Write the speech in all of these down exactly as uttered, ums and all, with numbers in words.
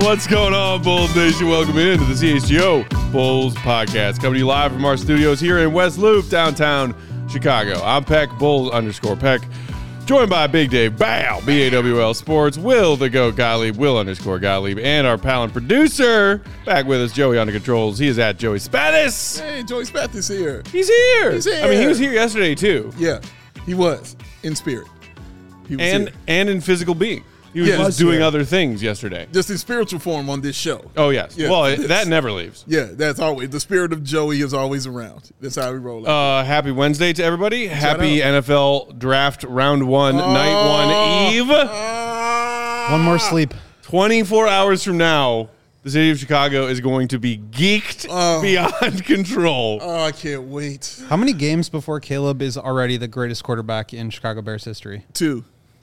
What's going on, Bulls Nation? Welcome into the C H G O Bulls Podcast. Coming to you live from our studios here in West Loop, downtown Chicago. I'm Peck, Bulls underscore Peck. Joined by Big Dave Bow, B A W L Sports, Will the Goat Gottlieb, Will underscore Gottlieb, and our pal and producer, back with us, Joey on the controls. He is at Joey Spatis. Hey, Joey Spatis is here. He's here. He's here. I mean, he was here yesterday, too. Yeah, he was, in spirit. He was and here. and in physical being. He was Yeah, just doing here. other things yesterday. Just in spiritual form on this show. Oh, yes. Yeah, well, it, it's- that never leaves. Yeah, that's always, the spirit of Joey is always around. That's how we roll. Uh, happy Wednesday to everybody. Happy out. N F L Draft Round one, Oh, Night one Eve. Uh, One more sleep. twenty-four hours from now, the city of Chicago is going to be geeked Oh. beyond control. Oh, I can't wait. How many games before Caleb is already the greatest quarterback in Chicago Bears history? Two.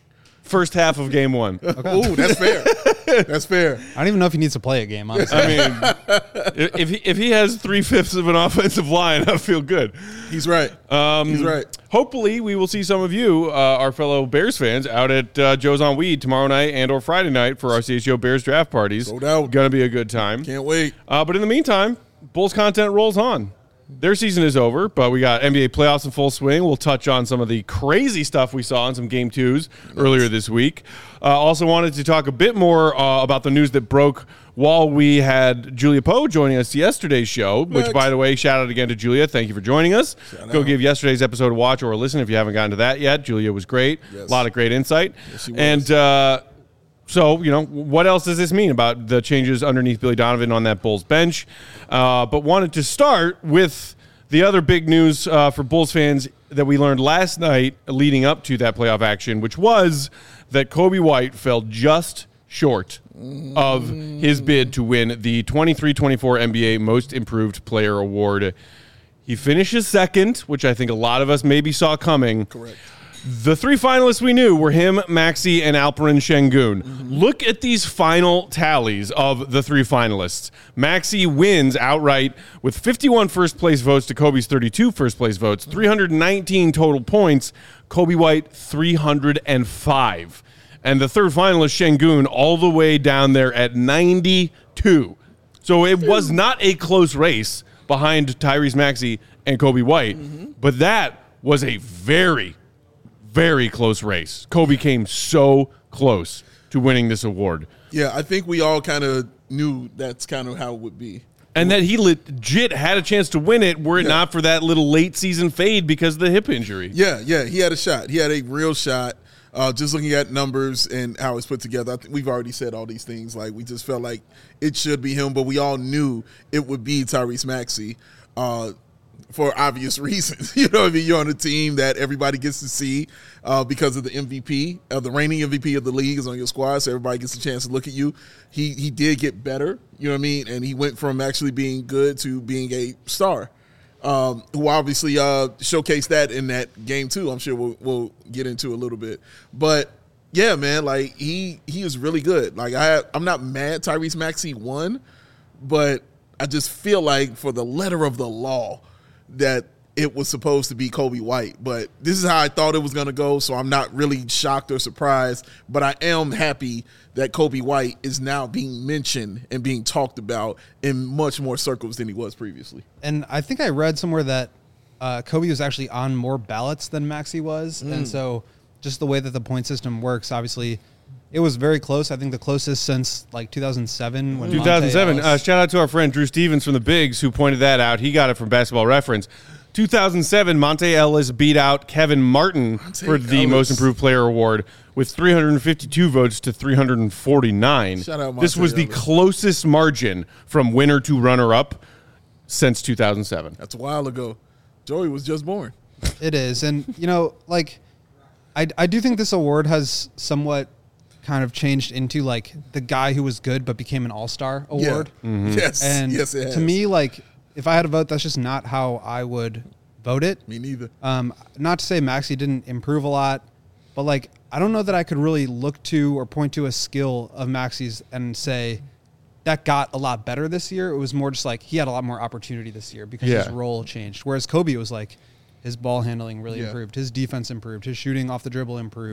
First half of game one. Oh, that's fair. That's fair. I don't even know if he needs to play a game, honestly. I mean, if he, if he has three-fifths of an offensive line, I feel good. He's right. Um, He's right. Hopefully, we will see some of you, uh, our fellow Bears fans, out at uh, Joe's on Weed tomorrow night and or Friday night for our C H G O Bears draft parties. No doubt. Going to be a good time. Can't wait. Uh, but in the meantime, Bulls content rolls on. Their season is over, but we got N B A playoffs in full swing. We'll touch on some of the crazy stuff we saw in some game twos earlier this week. Uh, also wanted to talk a bit more uh, about the news that broke while we had Julia Poe joining us yesterday's show, which, by the way, shout out again to Julia. Thank you for joining us. Shout Go out. give yesterday's episode a watch or a listen if you haven't gotten to that yet. Julia was great. Yes. A lot of great insight. Yes, she was. And uh, so, you know, what else does this mean about the changes underneath Billy Donovan on that Bulls bench? Uh, but wanted to start with the other big news uh, for Bulls fans that we learned last night leading up to that playoff action, which was that Coby White fell just short of his bid to win the twenty-three twenty-four N B A Most Improved Player Award. He finishes second, which I think a lot of us maybe saw coming. Correct. The three finalists we knew were him, Maxey, and Alperen Şengün. Mm-hmm. Look at these final tallies of the three finalists. Maxey wins outright with fifty-one first-place votes to Kobe's thirty-two first-place votes, three hundred nineteen total points, Coby White three hundred five. And the third finalist, Şengün, all the way down there at ninety-two. So it was not a close race behind Tyrese Maxey and Coby White, mm-hmm. but that was a very Very close race. Coby came so close to winning this award. Yeah, I think we all kind of knew that's kind of how it would be. And that he legit had a chance to win it were it Yeah. not for that little late season fade because of the hip injury. Yeah, yeah, he had a shot. He had a real shot. Uh, just looking at numbers and how it's put together, I think we've already said all these things. Like, we just felt like it should be him, but we all knew it would be Tyrese Maxey uh, for obvious reasons. You know what I mean? You're on a team that everybody gets to see uh, because of the M V P, uh, the reigning M V P of the league is on your squad, so everybody gets a chance to look at you. He he did get better, you know what I mean? And he went from actually being good to being a star. Um, who obviously uh, showcased that in that game too. I'm sure we'll, we'll get into a little bit, but yeah, man, like he he is really good. Like I I'm not mad Tyrese Maxey won, but I just feel like for the letter of the law that it was supposed to be Coby White. But this is how I thought it was going to go, so I'm not really shocked or surprised. But I am happy that Coby White is now being mentioned and being talked about in much more circles than he was previously. And I think I read somewhere that uh, Coby was actually on more ballots than Maxey was. Mm. And so just the way that the point system works, obviously, it was very close. I think the closest since like two thousand seven. When two thousand seven. Monte Uh, Ellis- shout out to our friend Drew Stevens from the Bigs who pointed that out. He got it from Basketball Reference. two thousand seven, Monte Ellis beat out Kevin Martin Monte for the Ellis. Most Improved Player Award with three hundred fifty-two votes to three hundred forty-nine. Shout out This Monte was the Ellis. closest margin from winner to runner-up since two thousand seven. That's a while ago. Joey was just born. It is. And, you know, like, I, I do think this award has somewhat kind of changed into, like, the guy who was good but became an all-star award. Yeah. Mm-hmm. Yes. And yes, it has. to me, like, if I had a vote, that's just not how I would vote it. Me neither. Um, not to say Maxey didn't improve a lot, but, like, I don't know that I could really look to or point to a skill of Maxey's and say that got a lot better this year. It was more just like he had a lot more opportunity this year because Yeah. his role changed. Whereas Coby was like his ball handling really Yeah. improved, his defense improved, his shooting off the dribble improved. Yeah.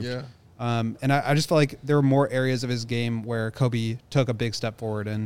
Um, and I, I just felt like there were more areas of his game where Kobe took a big step forward. And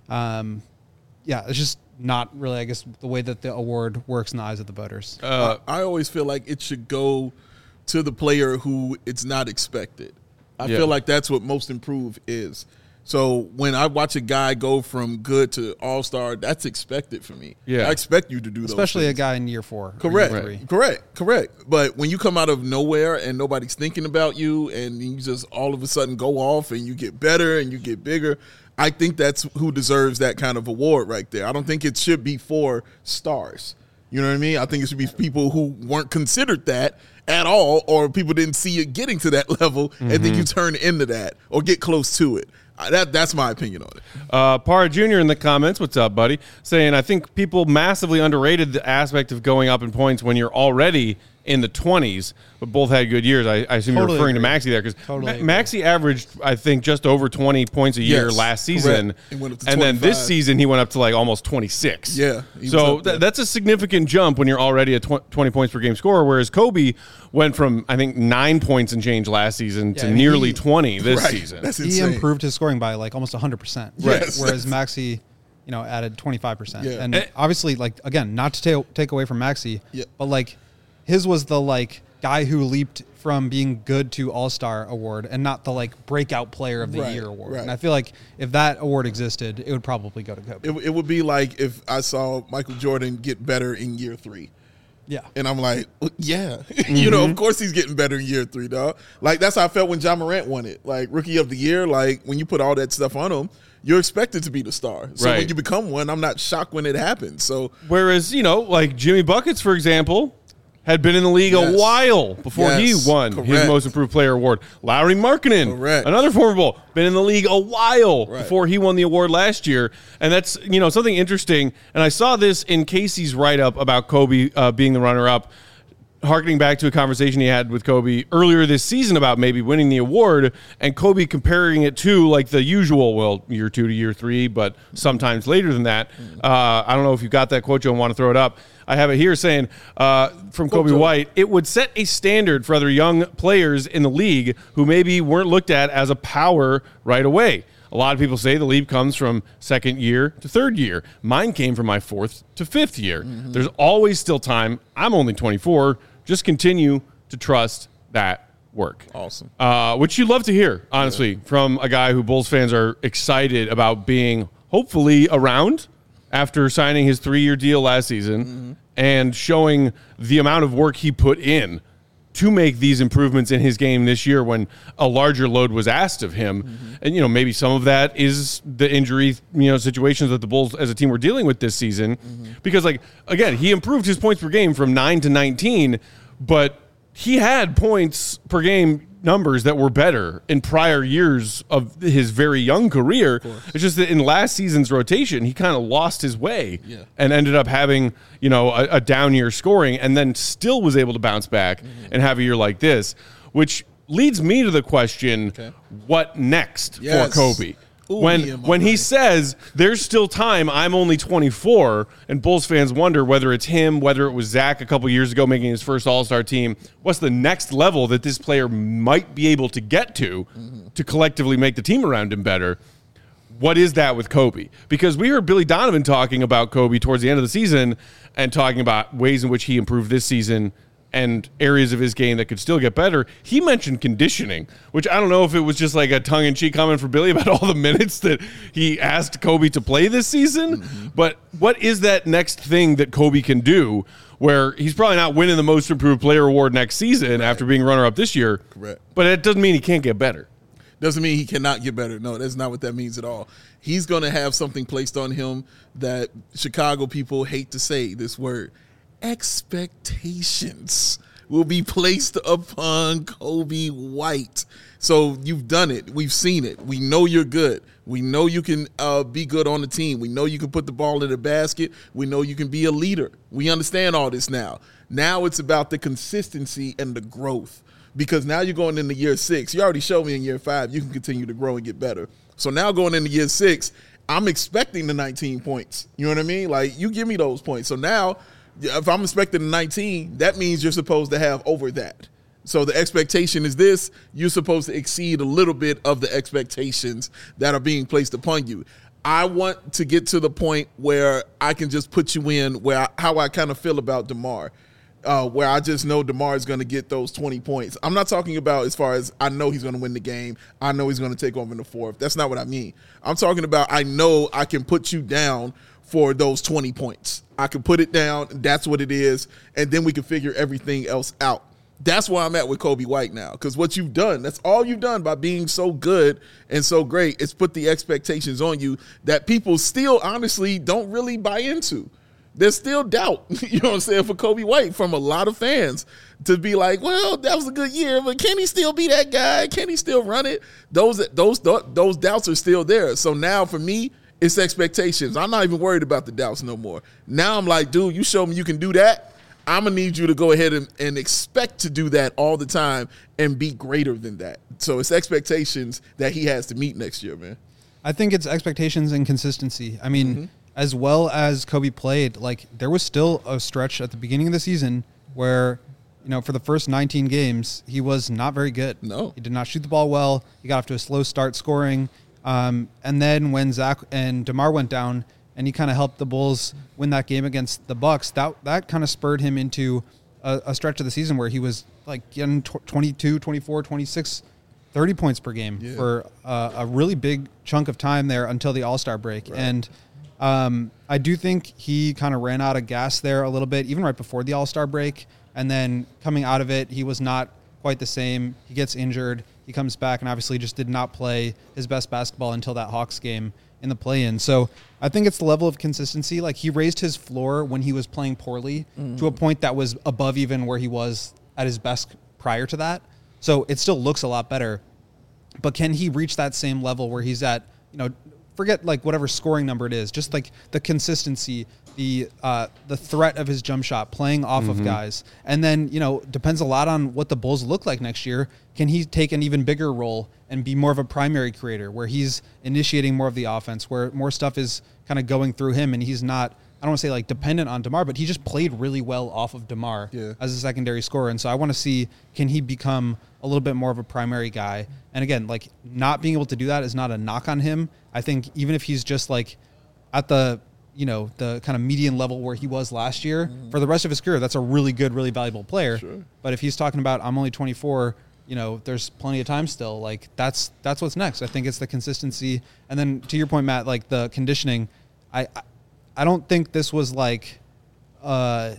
um, yeah, it's just not really, I guess, the way that the award works in the eyes of the voters. Uh, I always feel like it should go to the player who it's not expected. I Yeah. feel like that's what most improved is. So when I watch a guy go from good to all-star, that's expected for me. Yeah. I expect you to do those Especially a things. guy in year four. or Correct. year three. Correct. Correct. But when you come out of nowhere and nobody's thinking about you and you just all of a sudden go off and you get better and you get bigger, I think that's who deserves that kind of award right there. I don't think it should be for stars. You know what I mean? I think it should be people who weren't considered that at all, or people didn't see it getting to that level and then you turn into that or get close to it. Uh, That That's my opinion on it. Uh, Parra Junior in the comments, what's up, buddy? Saying, I think people massively underrated the aspect of going up in points when you're already in the twenties, but both had good years. I, I assume Totally you're referring agree. to Maxey there because Totally Ma- Maxey averaged, I think, just over twenty points a year Yes, last season. correct. He went up to and then this twenty-five. season, he went up to like almost twenty-six. Yeah, he was So up there. th- that's a significant jump when you're already a tw- twenty points per game scorer, whereas Kobe went from, I think, nine points and change last season Yeah, to I mean, nearly he- twenty this Right. season. That's He insane. improved his scoring by like almost one hundred percent. Right. Yes. Whereas Maxey, you know, added twenty-five percent. Yeah. And Eh. obviously, like, again, not to ta- take away from Maxey, Yeah. but like his was the like guy who leaped from being good to all-star award and not the like breakout player of the Right, year award. right. And I feel like if that award existed, it would probably go to Kobe. It, it would be like if I saw Michael Jordan get better in year three. yeah. And I'm like, well, yeah, you know, of Mm-hmm. course he's getting better in year three, dog. Like, that's how I felt when John Morant won it. Like, rookie of the year, like, when you put all that stuff on him, you're expected to be the star. So Right. when you become one, I'm not shocked when it happens. So, Whereas, you know, like Jimmy Buckets, for example, had been in the league Yes. a while before Yes, he won his correct. most improved player award. Lowry Markkinen, Correct. another former Bull, been in the league a while Right. before he won the award last year. And that's, you know, something interesting. And I saw this in Casey's write-up about Kobe uh, being the runner-up, harkening back to a conversation he had with Kobe earlier this season about maybe winning the award, and Kobe comparing it to like the usual, well, year two to year three, but sometimes later than that. Uh, I don't know if you got that quote, Joe, and want to throw it up. I have it here saying uh, from Kobe Joe. White, it would set a standard for other young players in the league who maybe weren't looked at as a power right away. A lot of people say the leap comes from second year to third year. Mine came from my fourth to fifth year. Mm-hmm. There's always still time. I'm only twenty-four. Just continue to trust that work. awesome. Uh, which you love to hear, honestly, from a guy who Bulls fans are excited about being hopefully around after signing his three-year deal last season Mm-hmm. and showing the amount of work he put in to make these improvements in his game this year when a larger load was asked of him. Mm-hmm. And, you know, maybe some of that is the injury, you know, situations that the Bulls as a team were dealing with this season. Mm-hmm. Because, like, again, he improved his points per game from nine to nineteen, but he had points per game numbers that were better in prior years of his very young career. It's just that in last season's rotation, he kind of lost his way Yeah. and ended up having, you know, a, a down year scoring, and then still was able to bounce back Mm-hmm. and have a year like this, which leads me to the question, Okay. what next Yes. for Kobe? Ooh, when me and my when he man. says there's still time, I'm only twenty-four, and Bulls fans wonder whether it's him, whether it was Zach a couple years ago making his first All-Star team. What's the next level that this player might be able to get to Mm-hmm. to collectively make the team around him better? What is that with Kobe? Because we heard Billy Donovan talking about Kobe towards the end of the season and talking about ways in which he improved this season and areas of his game that could still get better. He mentioned conditioning, which I don't know if it was just like a tongue-in-cheek comment for Billy about all the minutes that he asked Kobe to play this season. Mm-hmm. But what is that next thing that Kobe can do where he's probably not winning the most improved player award next season after being runner-up this year? Correct. But it doesn't mean he can't get better. Doesn't mean he cannot get better. No, that's not what that means at all. He's going to have something placed on him that Chicago people hate to say this word. Expectations will be placed upon Kobe White. So you've done it. We've seen it. We know you're good. We know you can uh, be good on the team. We know you can put the ball in the basket. We know you can be a leader. We understand all this now. Now it's about the consistency and the growth. Because now you're going into year six. You already showed me in year five you can continue to grow and get better. So now going into year six, I'm expecting the nineteen points. You know what I mean? Like, you give me those points. So now, if I'm expecting the nineteen, that means you're supposed to have over that. So the expectation is this: you're supposed to exceed a little bit of the expectations that are being placed upon you. I want to get to the point where I can just put you in where I, how I kind of feel about DeMar, uh, where I just know DeMar is going to get those twenty points. I'm not talking about as far as I know he's going to win the game. I know he's going to take over in the fourth. That's not what I mean. I'm talking about I know I can put you down for those twenty points. I can put it down. That's what it is. And then we can figure everything else out. That's where I'm at with Coby White now, because what you've done, that's all you've done by being so good and so great, is put the expectations on you that people still honestly don't really buy into. There's still doubt, you know what I'm saying, for Coby White from a lot of fans to be like, well, that was a good year, but can he still be that guy? Can he still run it? Those those those doubts are still there. So now for me, it's expectations. I'm not even worried about the doubts no more. Now I'm like, dude, you show me you can do that. I'm going to need you to go ahead and, and expect to do that all the time and be greater than that. So it's expectations that he has to meet next year, man. I think it's expectations and consistency. I mean, mm-hmm. as well as Coby played, like there was still a stretch at the beginning of the season where, you know, for the first nineteen games, he was not very good. No. He did not shoot the ball well. He got off to a slow start scoring. Um, and then when Zach and DeMar went down, and he kind of helped the Bulls win that game against the Bucks, that that kind of spurred him into a, a stretch of the season where he was like getting twenty-two, twenty-four, twenty-six, thirty points per game yeah. for uh, a really big chunk of time there until the All-Star break. Right. And um, I do think he kind of ran out of gas there a little bit, even right before the All-Star break. And then coming out of it, he was not quite the same. He gets injured. He comes back and obviously just did not play his best basketball until that Hawks game in the play-in. So I think it's the level of consistency. Like he raised his floor when he was playing poorly mm. to a point that was above even where he was at his best prior to that. So it still looks a lot better. But can he reach that same level where he's at, you know, forget like whatever scoring number it is, just like the consistency, the uh, the threat of his jump shot, playing off mm-hmm. of guys. And then, you know, depends a lot on what the Bulls look like next year. Can he take an even bigger role and be more of a primary creator where he's initiating more of the offense, where more stuff is kind of going through him and he's not, I don't want to say like dependent on DeMar, but he just played really well off of DeMar yeah. as a secondary scorer. And so I want to see, can he become a little bit more of a primary guy? And again, like not being able to do that is not a knock on him. I think even if he's just like at the, you know, the kind of median level where he was last year, mm-hmm. for the rest of his career, that's a really good, really valuable player. Sure. But if he's talking about, I'm only twenty-four, you know, there's plenty of time still. Like that's that's what's next. I think it's the consistency. And then to your point, Matt, like the conditioning, I I don't think this was like, uh,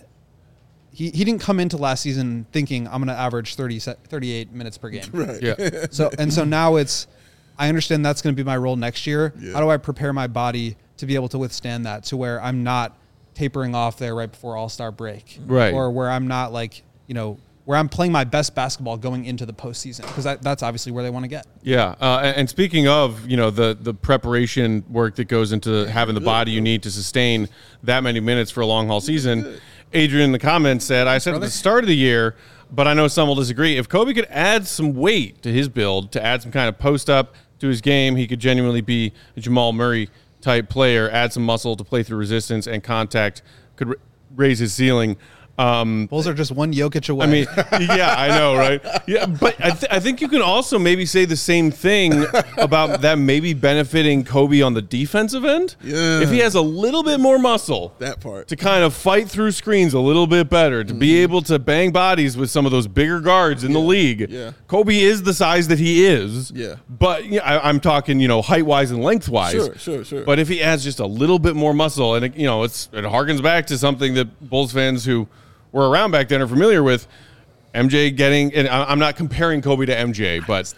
he, he didn't come into last season thinking I'm going to average thirty, thirty-eight minutes per game. Right. Yeah. So, and so now it's, I understand that's going to be my role next year. Yeah. How do I prepare my body to be able to withstand that, to where I'm not tapering off there right before All-Star break, right? Or where I'm not like, you know, where I'm playing my best basketball going into the postseason, because that, that's obviously where they want to get. Yeah, uh, and, and speaking of, you know, the the preparation work that goes into having the body you need to sustain that many minutes for a long haul season, Adrian in the comments said, I said at the start of the year, but I know some will disagree, if Coby could add some weight to his build, to add some kind of post up to his game, he could genuinely be a Jamal Murray type player, add some muscle to play through resistance and contact, could r- raise his ceiling. Um, Bulls are just one Jokic away. I mean, yeah, I know, right? Yeah, but I, th- I think you can also maybe say the same thing about that maybe benefiting Coby on the defensive end. Yeah. If he has a little bit more muscle, that part, to kind of fight through screens a little bit better, to mm-hmm. be able to bang bodies with some of those bigger guards in yeah. the league. Yeah. Coby is the size that he is. Yeah. But you know, I, I'm talking, you know, height-wise and length-wise. Sure, sure, sure. But if he adds just a little bit more muscle, and it, you know, it's it harkens back to something that Bulls fans who were around back then are familiar with, M J getting, and I'm not comparing Coby to M J, but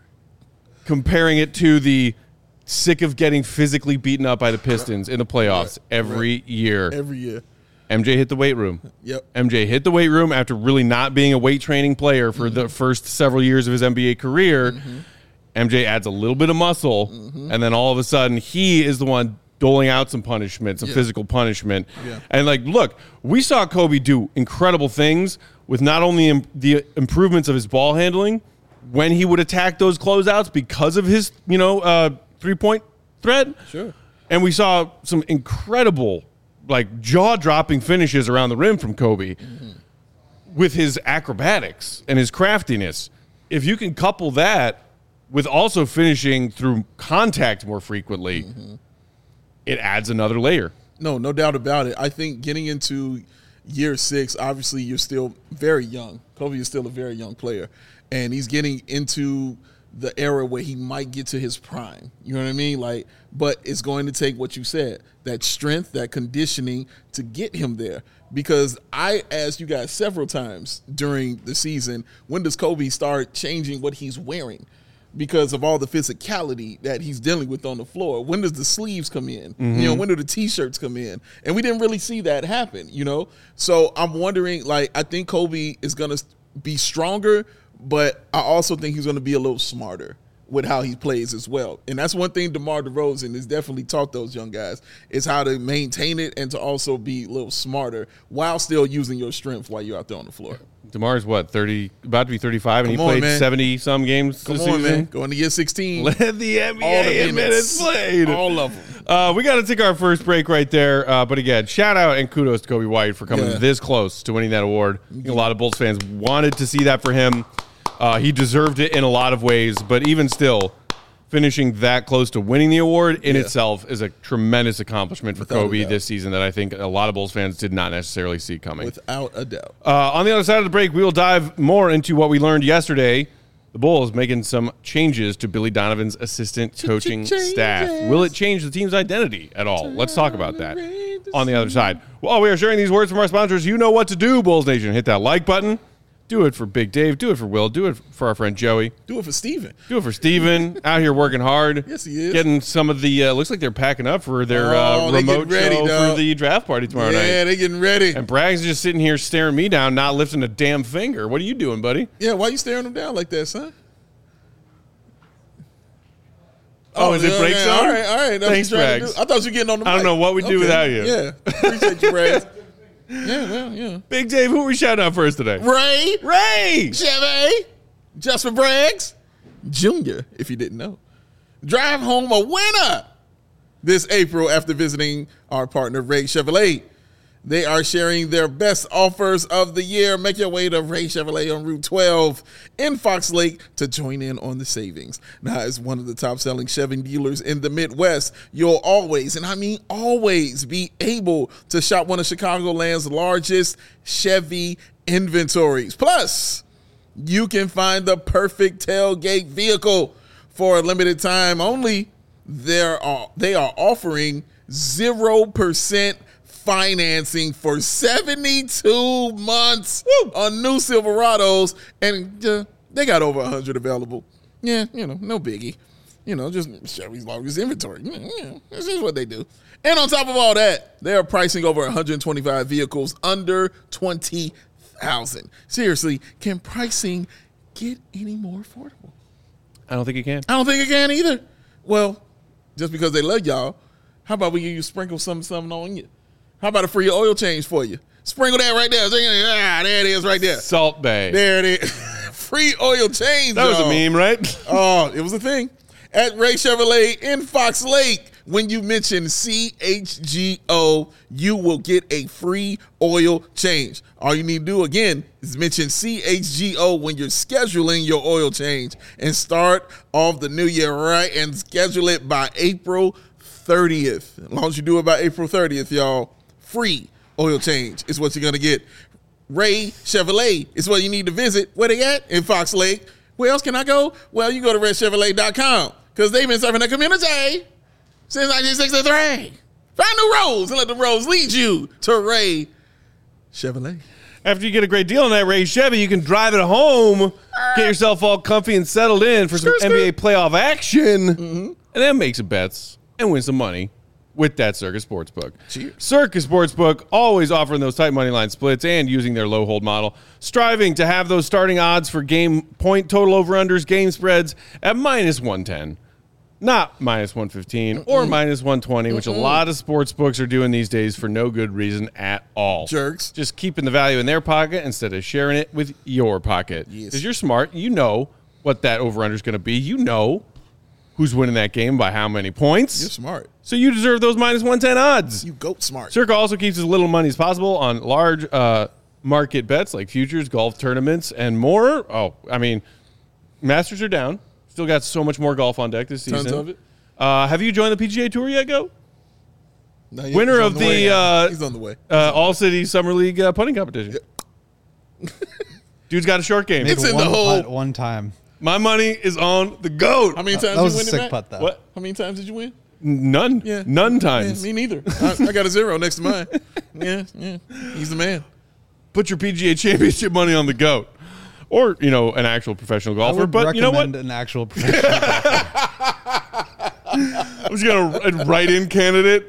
comparing it to the sick of getting physically beaten up by the Pistons in the playoffs right. every right. year. Every year. M J hit the weight room. Yep. M J hit the weight room after really not being a weight training player for mm-hmm. the first several years of his N B A career. Mm-hmm. M J adds a little bit of muscle, mm-hmm. and then all of a sudden he is the one doling out some punishment, some yeah. physical punishment. Yeah. And, like, look, we saw Coby do incredible things with not only im- the improvements of his ball handling when he would attack those closeouts because of his, you know, uh, three-point threat. Sure. And we saw some incredible, like, jaw-dropping finishes around the rim from Coby. Mm-hmm. with his acrobatics and his craftiness. If you can couple that with also finishing through contact more frequently, mm-hmm. it adds another layer. No, no doubt about it. I think getting into year six, obviously you're still very young. Kobe is still a very young player, and he's getting into the era where he might get to his prime. You know what I mean? Like, but it's going to take what you said, that strength, that conditioning to get him there. Because I asked you guys several times during the season, when does Kobe start changing what he's wearing? Because of all the physicality that he's dealing with on the floor. When does the sleeves come in? Mm-hmm. You know, when do the T-shirts come in? And we didn't really see that happen, you know? So I'm wondering, like, I think Kobe is going to be stronger, but I also think he's going to be a little smarter with how he plays as well. And that's one thing DeMar DeRozan has definitely taught those young guys, is how to maintain it and to also be a little smarter while still using your strength while you're out there on the floor. DeMar's what, thirty, about to be thirty-five, and Come he on, played seventy-some games Come this on, season. man. Going to year sixteen. Led the N B A All the in minutes. minutes played. All of them. Uh, we got to take our first break right there. Uh, but again, shout out and kudos to Kobe White for coming Yeah. this close to winning that award. I think a lot of Bulls fans wanted to see that for him. Uh, he deserved it in a lot of ways, but even still, finishing that close to winning the award in Yeah. itself is a tremendous accomplishment for Without a Kobe doubt. this season that I think a lot of Bulls fans did not necessarily see coming. Without a doubt. Uh, on the other side of the break, we will dive more into what we learned yesterday. The Bulls making some changes to Billy Donovan's assistant coaching staff. Will it change the team's identity at all? Let's talk about that on the other side. While we are sharing these words from our sponsors, you know what to do, Bulls Nation. Hit that like button. Do it for Big Dave. Do it for Will. Do it for our friend Joey. Do it for Steven. Do it for Steven. Out here working hard. Yes, he is. Getting some of the, uh, looks like they're packing up for their Oh, uh, they remote getting ready, show dog. for the draft party tomorrow night. Yeah, they getting ready. And Bragg's just sitting here staring me down, not lifting a damn finger. What are you doing, buddy? Yeah, why you staring him down like that, son? Oh, is it yeah, break yeah, zone? All right, all right. That's Thanks, what you're trying to Brags. do. I thought you were getting on the I don't mic. know what we'd do Okay. without you. Yeah, appreciate you, Brags. Yeah, yeah, yeah. Big Dave, who are we shouting out first today? Ray, Ray! Chevy, Jasper Braggs, Junior, if you didn't know. Drive home a winner this April after visiting our partner, Ray Chevrolet. They are sharing their best offers of the year. Make your way to Ray Chevrolet on Route twelve in Fox Lake to join in on the savings. Now, as one of the top-selling Chevy dealers in the Midwest, you'll always, and I mean always, be able to shop one of Chicagoland's largest Chevy inventories. Plus, you can find the perfect tailgate vehicle for a limited time only. There are, they are offering zero percent financing for seventy-two months Woo! On new Silverados, and uh, they got over one hundred available. Yeah, you know, no biggie. You know, just Chevy's largest inventory. Yeah, yeah, this is what they do. And on top of all that, they are pricing over one hundred twenty-five vehicles under twenty thousand dollars. Seriously, can pricing get any more affordable? I don't think you can. I don't think it can either. Well, just because they love y'all, how about we give you sprinkle something, something on you? How about a free oil change for you? Sprinkle that right there. Ah, there it is right there. Salt Bay. There it is. Free oil change, That was y'all. a meme, right? Oh, it was a thing. At Ray Chevrolet in Fox Lake, when you mention C H G O, you will get a free oil change. All you need to do, again, is mention C H G O when you're scheduling your oil change and start off the new year right and schedule it by April thirtieth. As long as you do it by April thirtieth, y'all, free oil change is what you're going to get. Ray Chevrolet is where you need to visit. Where they at? In Fox Lake. Where else can I go? Well, you go to ray chevrolet dot com because they've been serving the community since nineteen sixty-three. Find new roads and let the roads lead you to Ray Chevrolet. After you get a great deal on that Ray Chevy, you can drive it home, get yourself all comfy and settled in for some Skirt, N B A skirt. playoff action, Mm-hmm. and then make some bets and win some money with that Circus Sportsbook. Cheers. Circus Sportsbook, always offering those tight money line splits and using their low hold model, striving to have those starting odds for game point total over-unders, game spreads at minus one ten. Not minus one fifteen or Mm-mm. minus one twenty, which Mm-mm. a lot of sports books are doing these days for no good reason at all. Jerks. Just keeping the value in their pocket instead of sharing it with your pocket. Yes. Because you're smart. You know what that over-under is going to be. You know who's winning that game by how many points. You're smart. So you deserve those minus one ten odds. You goat smart. Circa also keeps as little money as possible on large uh, market bets like futures, golf tournaments, and more. Oh, I mean, Masters are down. Still got so much more golf on deck this season. Tons of it. Uh, have you joined the P G A Tour yet, Go? No, he- Winner he's of on the, way. uh, He's on the way. Uh, All-City Summer League uh, putting competition. Dude's got a short game. Made It's in one the hole. putt one time. My money is on the GOAT. How many times That was did a you win sick it, Matt? putt, though. What? How many times did you win? None. Yeah. None times. Yeah, me neither. I, I got a zero next to mine. Yeah, yeah. He's the man. Put your P G A Championship money on the GOAT. Or, you know, an actual professional I golfer. would But you know what? recommend an actual professional. I was going to write-in candidate.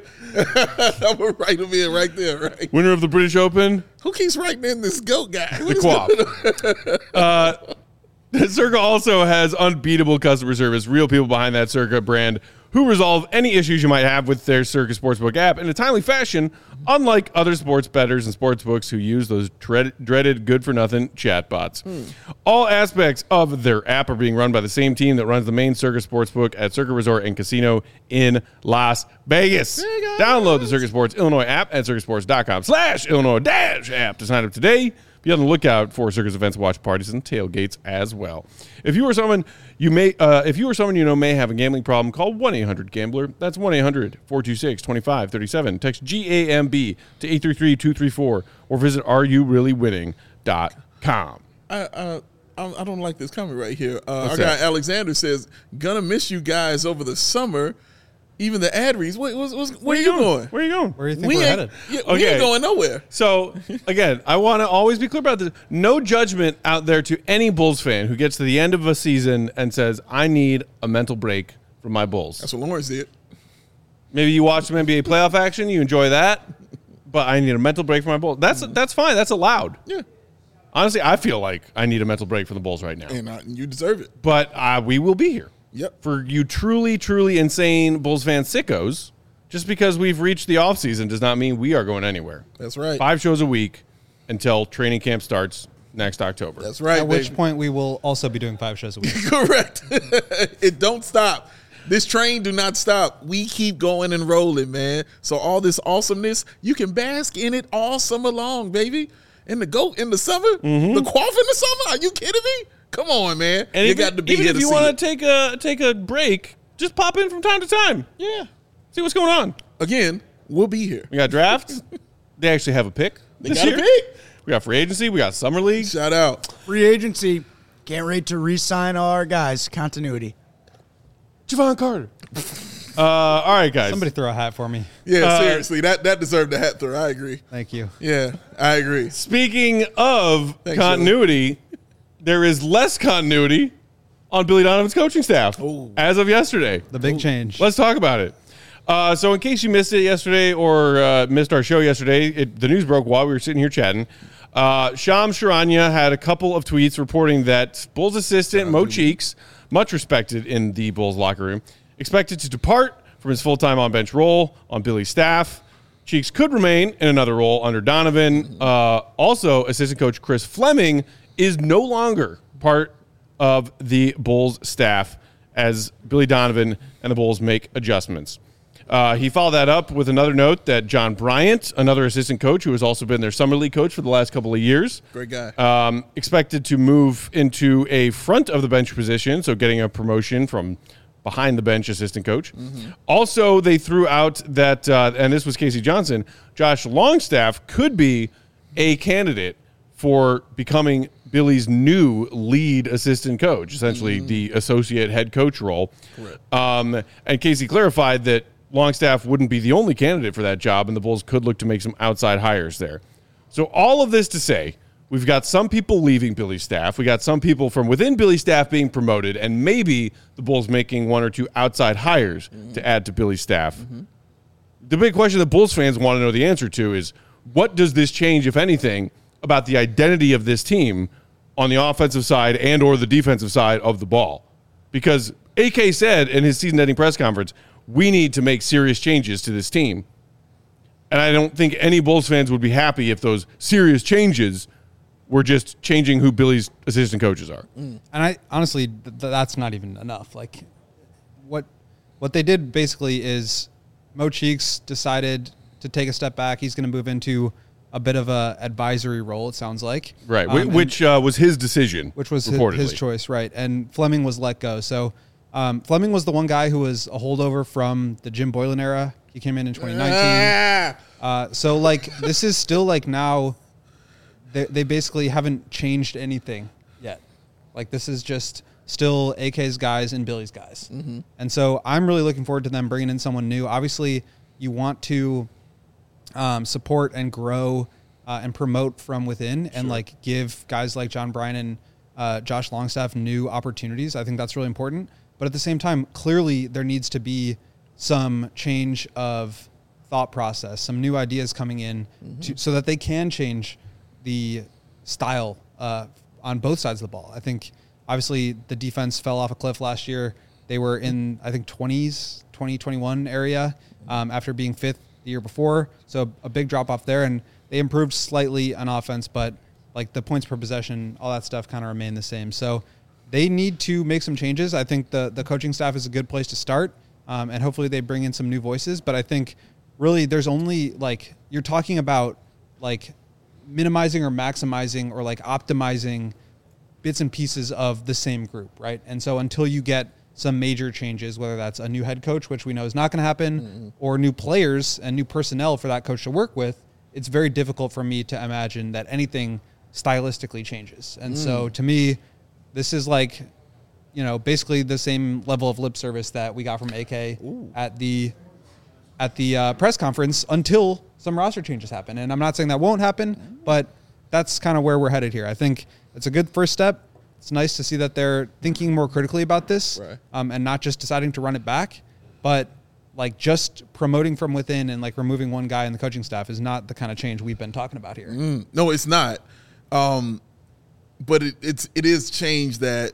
I'm gonna write him in right there, right? Winner of the British Open. Who keeps writing in this goat guy? What The is Quaff. going on? uh, Circa also has unbeatable customer service, real people behind that Circa brand who resolve any issues you might have with their Circa Sportsbook app in a timely fashion, unlike other sports bettors and sportsbooks who use those dread, dreaded good-for-nothing chatbots. Hmm. All aspects of their app are being run by the same team that runs the main Circa Sportsbook at Circa Resort and Casino in Las Vegas. Download the Circa Sports Illinois app at circasports.com slash Illinois dash app to sign up today. Be on the lookout for Circus events, watch parties, and tailgates as well. If you or someone you may, uh, if you or someone you know may have a gambling problem, call one eight hundred gambler. That's one eight hundred four two six two five three seven. Text G A M B to eight three three two three four or visit are you really winning dot com. I, uh, I I don't like this comment right here. Uh, our What's guy that? Alexander says, "Gonna miss you guys over the summer." Even the ad reads. Wait, what's, what's, where, are you going? Where are you going? Where do you think we we are ain't, headed? yeah, we Okay. ain't going nowhere. So, again, I want to always be clear about this. No judgment out there to any Bulls fan who gets to the end of a season and says, I need a mental break from my Bulls. That's what Lawrence did. Maybe you watch some N B A playoff action, you enjoy that, but I need a mental break from my Bulls. That's that's fine. That's allowed. Yeah, Honestly, I feel like I need a mental break from the Bulls right now. and uh, you deserve it. But uh, we will be here. Yep. For you truly, truly insane Bulls fan sickos, just because we've reached the offseason does not mean we are going anywhere. That's right. Five shows a week until training camp starts next October. That's right. At which baby. point we will also be doing five shows a week. Correct. It don't stop. This train do not stop. We keep going and rolling, man. So all this awesomeness, you can bask in it all summer long, baby. In the goat in the summer, Mm-hmm. the quaff in the summer. Are you kidding me? Come on, man. And you even, got to be even here if to you see want it. to take a take a break, just pop in from time to time. Yeah. See what's going on. Again, we'll be here. We got drafts. They actually have a pick. They this got a year. pick. We got free agency. We got summer league. Shout out. Free agency. Can't wait to re-sign all our guys. Continuity. Javon Carter. uh, all right, guys. Somebody throw a hat for me. Yeah, Uh, seriously, that that deserved a hat throw. I agree. Thank you. Yeah, I agree. Speaking of Thanks, continuity, there is less continuity on Billy Donovan's coaching staff Ooh. as of yesterday. The big change. Let's talk about it. Uh, so in case you missed it yesterday or uh, missed our show yesterday, it, the news broke while we were sitting here chatting. Uh, Shams Charania had a couple of tweets reporting that Bulls assistant Mo Cheeks, much respected in the Bulls locker room, expected to depart from his full-time on-bench role on Billy's staff. Cheeks could remain in another role under Donovan. Uh, also, assistant coach Chris Fleming is no longer part of the Bulls staff as Billy Donovan and the Bulls make adjustments. Uh, he followed that up with another note that John Bryant, another assistant coach who has also been their summer league coach for the last couple of years, Great guy. um, expected to move into a front of the bench position, so getting a promotion from behind the bench assistant coach. Mm-hmm. Also, they threw out that, uh, and this was Casey Johnson, Josh Longstaff could be a candidate for becoming Billy's new lead assistant coach, essentially Mm-hmm. the associate head coach role. Um, and Casey clarified that Longstaff wouldn't be the only candidate for that job, and the Bulls could look to make some outside hires there. So all of this to say, we've got some people leaving Billy's staff. We got some people from within Billy's staff being promoted, and maybe the Bulls making one or two outside hires mm-hmm. to add to Billy's staff. Mm-hmm. The big question that Bulls fans want to know the answer to is, what does this change, if anything, about the identity of this team on the offensive side and or the defensive side of the ball? Because A K said in his season-ending press conference, we need to make serious changes to this team. And I don't think any Bulls fans would be happy if those serious changes were just changing who Billy's assistant coaches are. And I honestly, th- that's not even enough. Like, what what they did basically is Mo Cheeks decided to take a step back. He's going to move into a bit of a advisory role, it sounds like. Right, Um, which uh, was his decision. Which was his, reportedly. his choice, right. And Fleming was let go. So um, Fleming was the one guy who was a holdover from the Jim Boylan era. He came in in twenty nineteen. Ah! Uh, so, like, this is still, like, now they, they basically haven't changed anything yet. Like, this is just still A K's guys and Billy's guys. Mm-hmm. And so I'm really looking forward to them bringing in someone new. Obviously, you want to um, support and grow uh, and promote from within and, like, give guys like John Bryan and uh, Josh Longstaff new opportunities. I think that's really important. But at the same time, clearly there needs to be some change of thought process, some new ideas coming in mm-hmm. to, so that they can change the style uh, on both sides of the ball. I think obviously the defense fell off a cliff last year. They were in, I think, twenties, twenty, twenty-one area um, after being fifth the year before. So a big drop off there, and they improved slightly on offense, but like the points per possession, all that stuff kind of remained the same. So they need to make some changes. I think the, the coaching staff is a good place to start, um, and hopefully they bring in some new voices. But I think really there's only, like, you're talking about, like, minimizing or maximizing or, like, optimizing bits and pieces of the same group, right? And so until you get some major changes, whether that's a new head coach, which we know is not going to happen, mm-hmm. or new players and new personnel for that coach to work with, it's very difficult for me to imagine that anything stylistically changes. And mm. so to me, this is like, you know, basically the same level of lip service that we got from A K Ooh. at the at the uh, press conference until some roster changes happen. And I'm not saying that won't happen, but that's kind of where we're headed here. I think it's a good first step. It's nice to see that they're thinking more critically about this, right. um, and not just deciding to run it back, but like just promoting from within and like removing one guy in the coaching staff is not the kind of change we've been talking about here. Mm, no, it's not. Um, but it, it's it is change that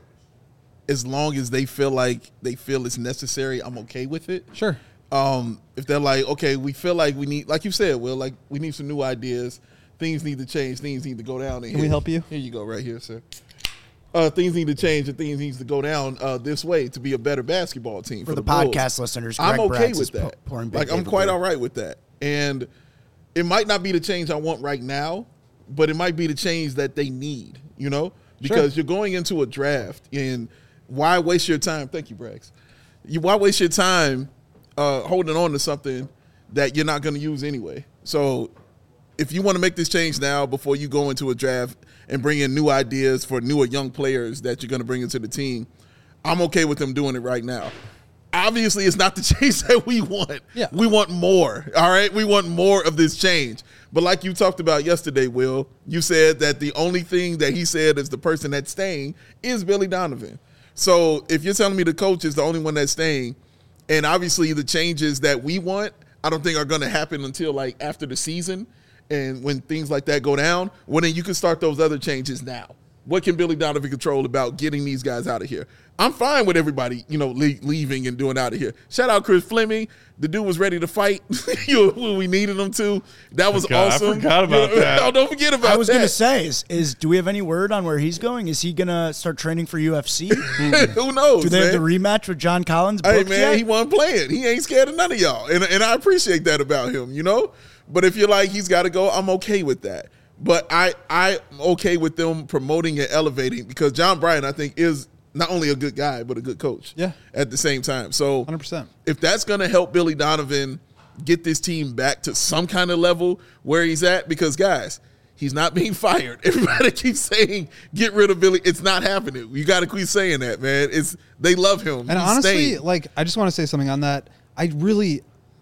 as long as they feel like they feel it's necessary, I'm okay with it. Sure. Um, if they're like, okay, we feel like we need, like you said, Will, like we need some new ideas. Things need to change. Things need to go down. Can here. we help you? Here you go, right here, sir. Uh, things need to change and things needs to go down uh, this way to be a better basketball team. For, for the, the podcast Bulls. listeners, Greg I'm okay Bratz with that. Pouring like I'm quite all right with that. And it might not be the change I want right now, but it might be the change that they need, you know, because sure. you're going into a draft and why waste your time? Thank you, Brax. You why waste your time uh, holding on to something that you're not going to use anyway? So if you want to make this change now before you go into a draft and bring in new ideas for newer young players that you're going to bring into the team, I'm okay with them doing it right now. Obviously, it's not the change that we want. Yeah. We want more, all right? We want more of this change. But like you talked about yesterday, Will, you said that the only thing that he said is the person that's staying is Billy Donovan. So if you're telling me the coach is the only one that's staying, and obviously the changes that we want, I don't think are going to happen until like after the season. And when things like that go down, well, then you can start those other changes now. What can Billy Donovan control about getting these guys out of here? I'm fine with everybody, you know, le- leaving and doing out of here. Shout out Chris Fleming. The dude was ready to fight when we needed him to. That was forgot, awesome. I forgot about you know, that. No, don't forget about that. I was going to say, is, is do we have any word on where he's going? Is he going to start training for U F C? Who knows, Do they man? have the rematch with John Collins booked Hey, man, yet? he wasn't playing. He ain't scared of none of y'all. And, and I appreciate that about him, you know? But if you're like, he's got to go, I'm okay with that. But I, I'm okay with them promoting and elevating because John Bryan, I think, is not only a good guy, but a good coach Yeah. at the same time. So one hundred percent. If that's going to help Billy Donovan get this team back to some kind of level where he's at, because, guys, he's not being fired. Everybody keeps saying, get rid of Billy. It's not happening. You got to quit saying that, man. It's They love him. And He's honestly, staying. like, I just want to say something on that. I really,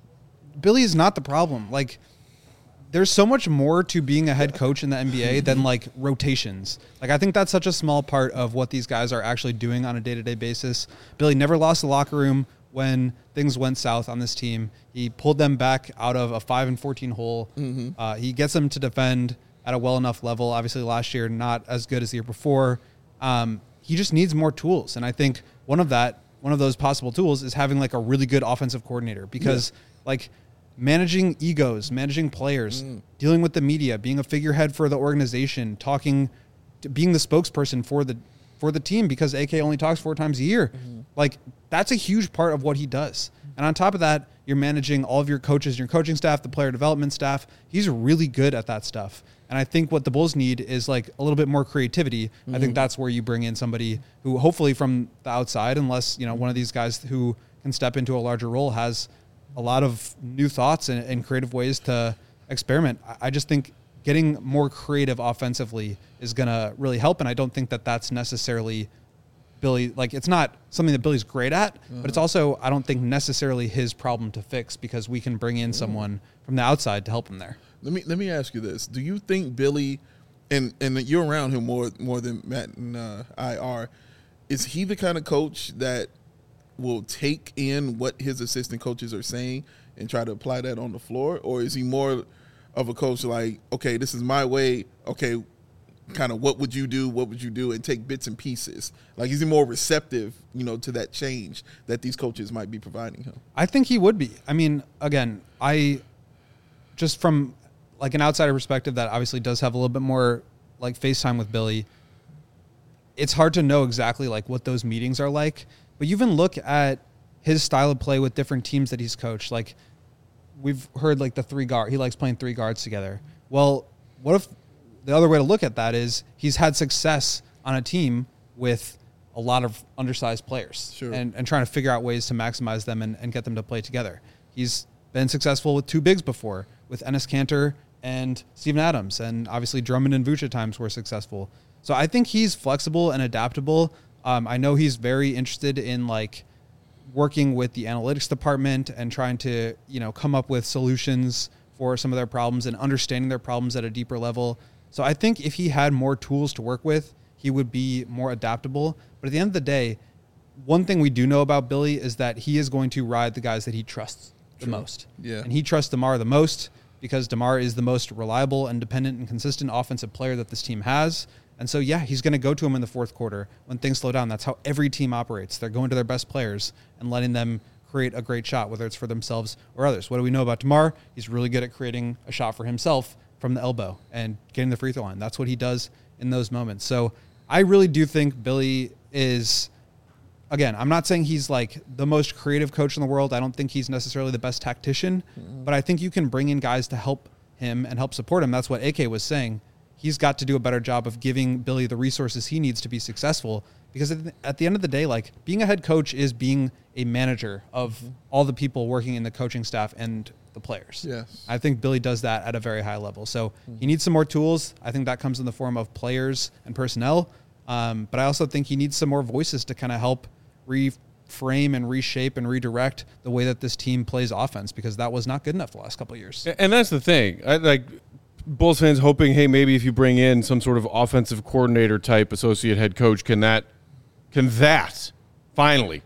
Billy is not the problem. Like, there's so much more to being a head coach in the N B A than like rotations. Like, I think that's such a small part of what these guys are actually doing on a day-to-day basis. Billy never lost the locker room when things went south on this team. He pulled them back out of a five and fourteen hole. Mm-hmm. Uh, he gets them to defend at a well enough level. Obviously last year, not as good as the year before. Um, he just needs more tools. And I think one of that, one of those possible tools is having like a really good offensive coordinator because yeah. like, managing egos, managing players, mm. dealing with the media, being a figurehead for the organization, talking, to being the spokesperson for the for the team because A K only talks four times a year. Mm-hmm. Like, that's a huge part of what he does. And on top of that, you're managing all of your coaches, your coaching staff, the player development staff. He's really good at that stuff. And I think what the Bulls need is like a little bit more creativity. Mm-hmm. I think that's where you bring in somebody who hopefully from the outside, unless, you know, one of these guys who can step into a larger role has a lot of new thoughts and, and creative ways to experiment. I just think getting more creative offensively is going to really help. And I don't think that that's necessarily Billy. Like, it's not something that Billy's great at, mm-hmm. but it's also, I don't think necessarily his problem to fix, because we can bring in someone from the outside to help him there. Let me let me ask you this: do you think Billy, and and you're around him more more than Matt and uh, I are, is he the kind of coach that will take in what his assistant coaches are saying and try to apply that on the floor, or is he more of a coach like, okay, this is my way, okay, kind of what would you do, what would you do, and take bits and pieces? Like, is he more receptive, you know, to that change that these coaches might be providing him? I think he would be. I mean, again, I just from like an outsider perspective that obviously does have a little bit more like FaceTime with Billy, it's hard to know exactly like what those meetings are like, but you even look at his style of play with different teams that he's coached. Like, we've heard like the three guard, he likes playing three guards together. Well, what if the other way to look at that is he's had success on a team with a lot of undersized players, sure. and, and trying to figure out ways to maximize them and, and get them to play together. He's been successful with two bigs before, with Enes Kanter and Steven Adams, and obviously Drummond and Vooch at times were successful. So I think he's flexible and adaptable. Um, I know he's very interested in like working with the analytics department and trying to, you know, come up with solutions for some of their problems and understanding their problems at a deeper level. So I think if he had more tools to work with, he would be more adaptable. But at the end of the day, one thing we do know about Billy is that he is going to ride the guys that he trusts the True. most. Yeah. And he trusts DeMar the most because DeMar is the most reliable, independent, and consistent offensive player that this team has. And so, yeah, he's going to go to him in the fourth quarter when things slow down. That's how every team operates. They're going to their best players and letting them create a great shot, whether it's for themselves or others. What do we know about DeMar? He's really good at creating a shot for himself from the elbow and getting the free throw line. That's what he does in those moments. So I really do think Billy is, again, I'm not saying he's like the most creative coach in the world. I don't think he's necessarily the best tactician, mm-hmm. but I think you can bring in guys to help him and help support him. That's what A K was saying. He's got to do a better job of giving Billy the resources he needs to be successful, because at the end of the day, like, being a head coach is being a manager of mm-hmm. all the people working in the coaching staff and the players. Yes. I think Billy does that at a very high level. So mm-hmm. he needs some more tools. I think that comes in the form of players and personnel. Um, but I also think he needs some more voices to kind of help reframe and reshape and redirect the way that this team plays offense, because that was not good enough the last couple of years. And that's the thing. I, like, Bulls fans hoping, hey, maybe if you bring in some sort of offensive coordinator type associate head coach, can that can that finally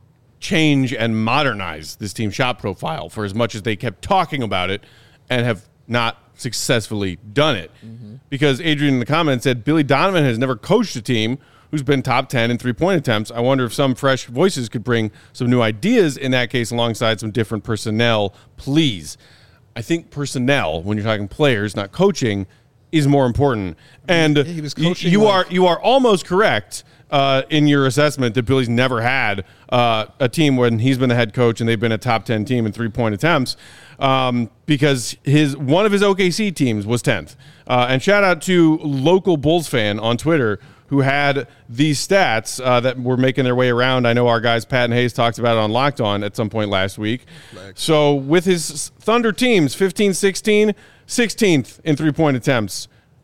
change and modernize this team's shot profile, for as much as they kept talking about it and have not successfully done it. Mm-hmm. Because Adrian in the comments said Billy Donovan has never coached a team who's been top ten in three-point attempts. I wonder if some fresh voices could bring some new ideas in that case alongside some different personnel, please. I think personnel, when you're talking players, not coaching, is more important. And yeah, he was coaching you, you like- are you are almost correct uh, in your assessment that Billy's never had uh, a team when he's been the head coach and they've been a top ten team in three-point attempts, um, because his one of his O K C teams was tenth. Uh, and shout out to local Bulls fan on Twitter who had these stats uh, that were making their way around. I know our guys, Pat and Hayes, talked about it on Locked On at some point last week. So with his Thunder teams, fifteen sixteen, sixteenth in three-point attempts.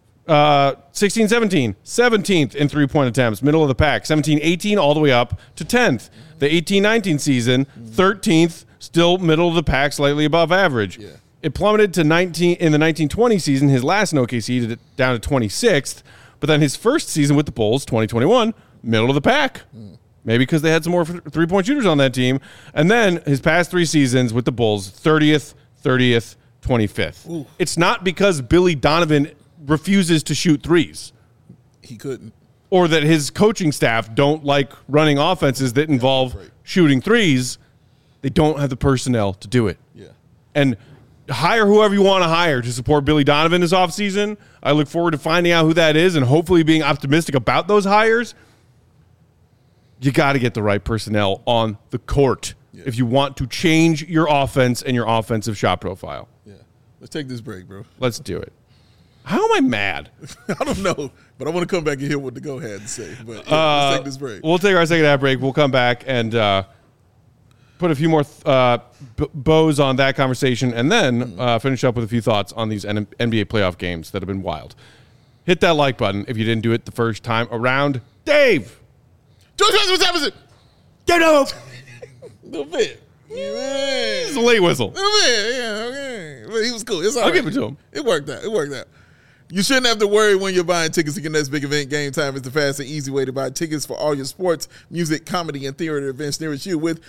Uh, sixteen seventeen, seventeenth in three-point attempts, middle of the pack. seventeen eighteen all the way up to tenth. The eighteen nineteen season, thirteenth, still middle of the pack, slightly above average. Yeah. It plummeted to nineteen in the nineteen twenty season, his last in O K C, to, down to twenty-sixth. But then his first season with the Bulls, twenty twenty-one, middle of the pack. Mm. Maybe because they had some more three-point shooters on that team. And then his past three seasons with the Bulls, thirtieth, thirtieth, twenty-fifth. Ooh. It's not because Billy Donovan refuses to shoot threes. He couldn't. Or that his coaching staff don't like running offenses that involve right. shooting threes. They don't have the personnel to do it. Yeah. And hire whoever you want to hire to support Billy Donovan this offseason. I look forward to finding out who that is and hopefully being optimistic about those hires. You got to get the right personnel on the court Yeah. if you want to change your offense and your offensive shot profile. Yeah. Let's take this break, bro. Let's do it. How am I mad? I don't know, but I want to come back and hear what the go had to say. But yeah, Uh, let's take this break. We'll take our second half break. We'll come back and uh, put a few more uh, b- bows on that conversation, and then uh, finish up with a few thoughts on these N- NBA playoff games that have been wild. Hit that like button if you didn't do it the first time around. Dave! George West, what's happening? Get up. A little bit. Yeah. It's a late whistle. A little bit, yeah, okay. But he was cool. It's all I'll right. give it to him. It worked out. It worked out. You shouldn't have to worry when you're buying tickets to your next big event. Game Time is the fast and easy way to buy tickets for all your sports, music, comedy, and theater events nearest you with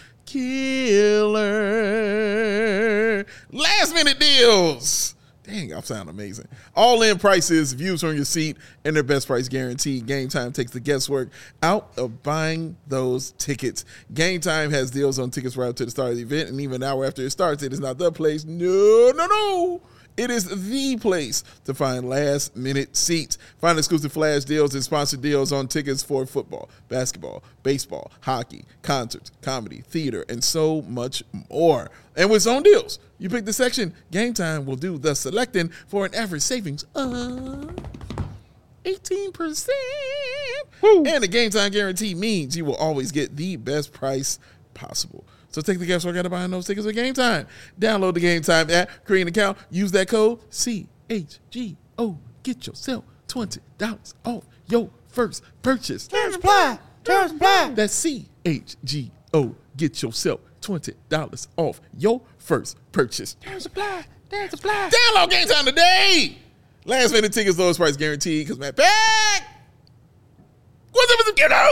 killer last minute deals. Dang, I sound amazing. All in prices, views from your seat, and their best price guarantee. Game Time takes the guesswork out of buying those tickets. Game Time has deals on tickets right up to the start of the event, and even an hour after it starts, it is not the place. No, no, no. It is the place to find last-minute seats. Find exclusive flash deals and sponsored deals on tickets for football, basketball, baseball, hockey, concerts, comedy, theater, and so much more. And with zone deals, you pick the section, Game Time will do the selecting for an average savings of eighteen percent. Woo. And the Game Time guarantee means you will always get the best price possible. So take the guesswork out of buying those tickets with Game Time. Download the Game Time app, create an account, use that code C H G O. Get yourself twenty dollars off your first purchase. Terms apply. Terms apply. That's C H G O. Get yourself twenty dollars off your first purchase. Terms apply. Terms apply. Download Game Time today. Last minute tickets, lowest price guaranteed. Because Matt back. What's up with the kiddo?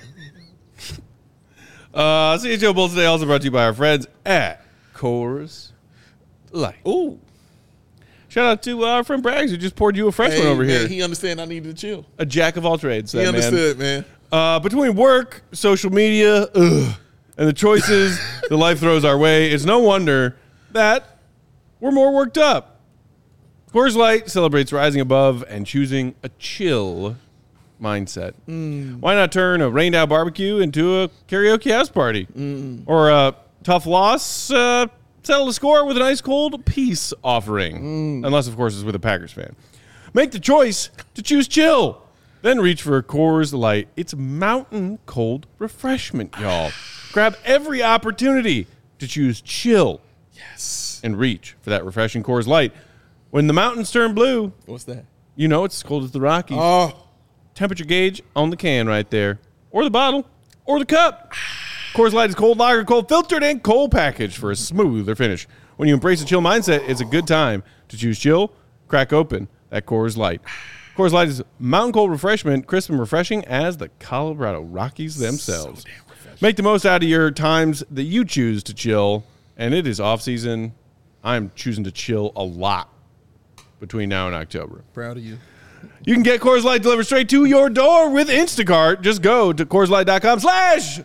Uh, C H O Bull today also brought to you by our friends at Coors Light. Ooh. Shout out to uh, our friend Braggs who just poured you a fresh Hey, one over man, here. he understand I needed to chill. A jack of all trades. He that man. understood, man. Uh, between work, social media, ugh, and the choices that life throws our way, it's no wonder that we're more worked up. Coors Light celebrates rising above and choosing a chill mindset. Mm. Why not turn a rained out barbecue into a karaoke house party? Mm. Or a tough loss, uh, settle the score with an ice cold peace offering. Mm. Unless, of course, it's with a Packers fan. Make the choice to choose chill. Then reach for a Coors Light. It's mountain cold refreshment, y'all. Grab every opportunity to choose chill. Yes. And reach for that refreshing Coors Light. When the mountains turn blue, What's that? you know it's as cold as the Rockies. Oh. Temperature gauge on the can right there. Or the bottle. Or the cup. Coors Light is cold lager, cold filtered, and cold packaged for a smoother finish. When you embrace a chill mindset, it's a good time to choose chill. Crack open that Coors Light. Coors Light is mountain cold refreshment, crisp and refreshing as the Colorado Rockies themselves. So damn refreshing. Make the most out of your times that you choose to chill. And it is off season. I'm choosing to chill a lot between now and October. Proud of you. You can get Coors Light delivered straight to your door with Instacart. Just go to CoorsLight.com slash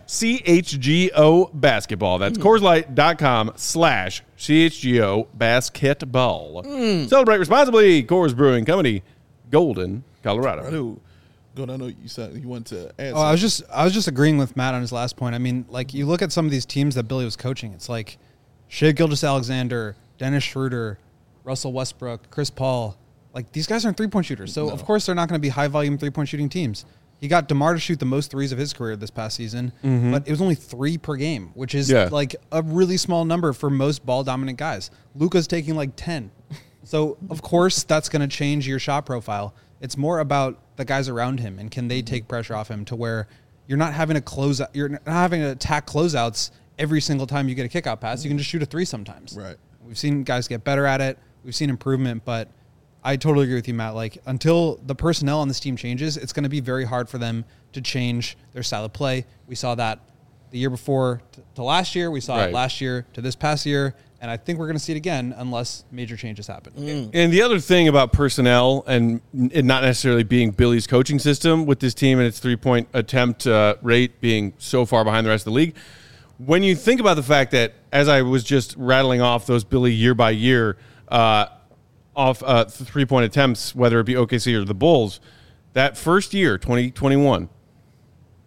CHGO basketball. That's mm. CoorsLight.com slash CHGO basketball. Mm. Celebrate responsibly. Coors Brewing Company, Golden, Colorado. Proud Go I know you said you want to add. Oh, I was just I was just agreeing with Matt on his last point. I mean, like you look at some of these teams that Billy was coaching. It's like Shea Gilgeous-Alexander, Dennis Schroeder, Russell Westbrook, Chris Paul. Like, these guys aren't three-point shooters. So, No. of course, they're not going to be high-volume three-point shooting teams. He got DeMar to shoot the most threes of his career this past season, Mm-hmm. but it was only three per game, which is, Yeah. like, a really small number for most ball-dominant guys. Luka's taking, like, ten. So, of course, that's going to change your shot profile. It's more about the guys around him, and can they take pressure off him to where you're not having to close out, you're not having to attack closeouts every single time you get a kickout pass. You can just shoot a three sometimes. Right. We've seen guys get better at it. We've seen improvement, but I totally agree with you, Matt. Like, until the personnel on this team changes, it's going to be very hard for them to change their style of play. We saw that the year before t- to last year. We saw Right. it last year to this past year. And I think we're going to see it again unless major changes happen. Mm. And the other thing about personnel and it not necessarily being Billy's coaching system with this team and its three-point attempt uh, rate being so far behind the rest of the league, when you think about the fact that, as I was just rattling off those Billy year by year uh, off uh, three-point attempts, whether it be O K C or the Bulls, that first year, twenty twenty-one,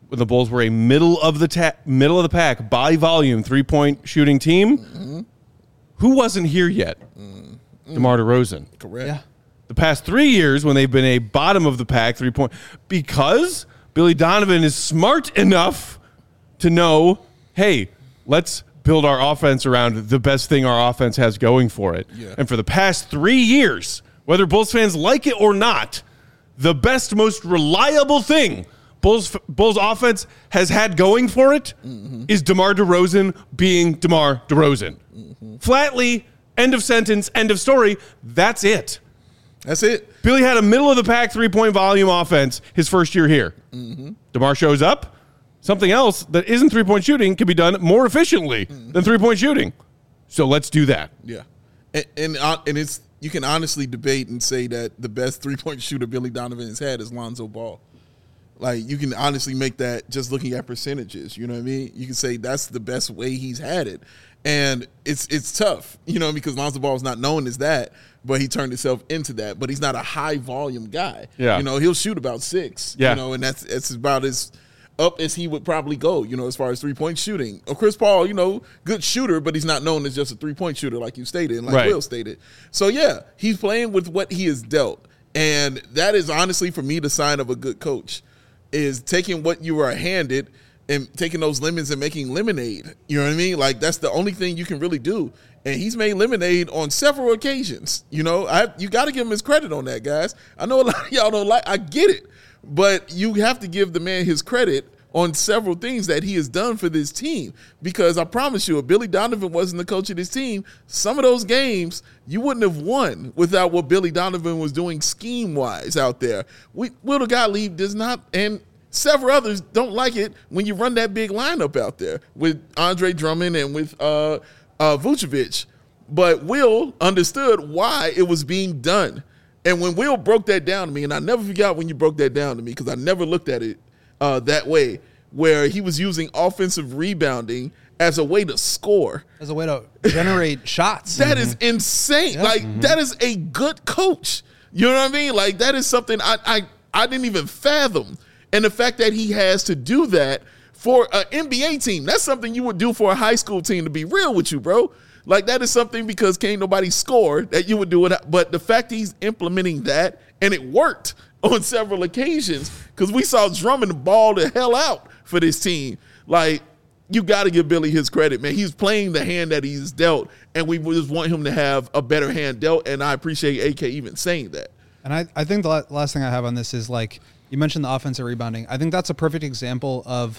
when the Bulls were a middle of the ta- middle of the pack by volume three-point shooting team, mm-hmm. who wasn't here yet? Mm-hmm. DeMar DeRozan. Correct. Yeah. The past three years when they've been a bottom of the pack three-point, because Billy Donovan is smart enough to know, hey, let's build our offense around the best thing our offense has going for it. Yeah. And for the past three years, whether Bulls fans like it or not, the best, most reliable thing Bulls Bulls offense has had going for it mm-hmm. is DeMar DeRozan being DeMar DeRozan. Mm-hmm. Flatly, end of sentence, end of story. That's it. That's it. Billy had a middle-of-the-pack three-point volume offense his first year here. Mm-hmm. DeMar shows up. Something else that isn't three-point shooting can be done more efficiently mm-hmm. than three-point shooting. So let's do that. Yeah. And, and, uh, and it's you can honestly debate and say that the best three-point shooter Billy Donovan has had is Lonzo Ball. Like, you can honestly make that just looking at percentages. You know what I mean? You can say that's the best way he's had it. And it's it's tough, you know, because Lonzo Ball is not known as that, but he turned himself into that. But he's not a high-volume guy. Yeah. You know, he'll shoot about six. Yeah. You know, and that's, that's about as up as he would probably go, you know, as far as three-point shooting. Oh, Chris Paul, you know, good shooter, but he's not known as just a three-point shooter like you stated and like right. Will stated. So, yeah, he's playing with what he is dealt. And that is honestly, for me, the sign of a good coach. Is taking what you are handed and taking those lemons and making lemonade. You know what I mean? Like, that's the only thing you can really do. And he's made lemonade on several occasions. You know, I you got to give him his credit on that, guys. I know a lot of y'all don't like, I get it. But you have to give the man his credit on several things that he has done for this team. Because I promise you, if Billy Donovan wasn't the coach of this team, some of those games you wouldn't have won without what Billy Donovan was doing scheme-wise out there. We, Will Gottlieb does not, and several others don't like it when you run that big lineup out there with Andre Drummond and with uh, uh, Vucevic. But Will understood why it was being done. And when Will broke that down to me, and I never forgot when you broke that down to me because I never looked at it Uh, that way, where he was using offensive rebounding as a way to score. As a way to generate shots. That mm-hmm. is insane. Yeah. Like, mm-hmm. that is a good coach. You know what I mean? Like, that is something I, I, I didn't even fathom. And the fact that he has to do that for an N B A team, that's something you would do for a high school team, to be real with you, bro. Like, that is something because can't nobody score that you would do it. But the fact he's implementing that, and it worked on several occasions, because we saw Drummond ball the hell out for this team. Like, you got to give Billy his credit, man. He's playing the hand that he's dealt, and we just want him to have a better hand dealt, and I appreciate A K even saying that. And I, I think the last thing I have on this is, like, you mentioned the offensive rebounding. I think that's a perfect example of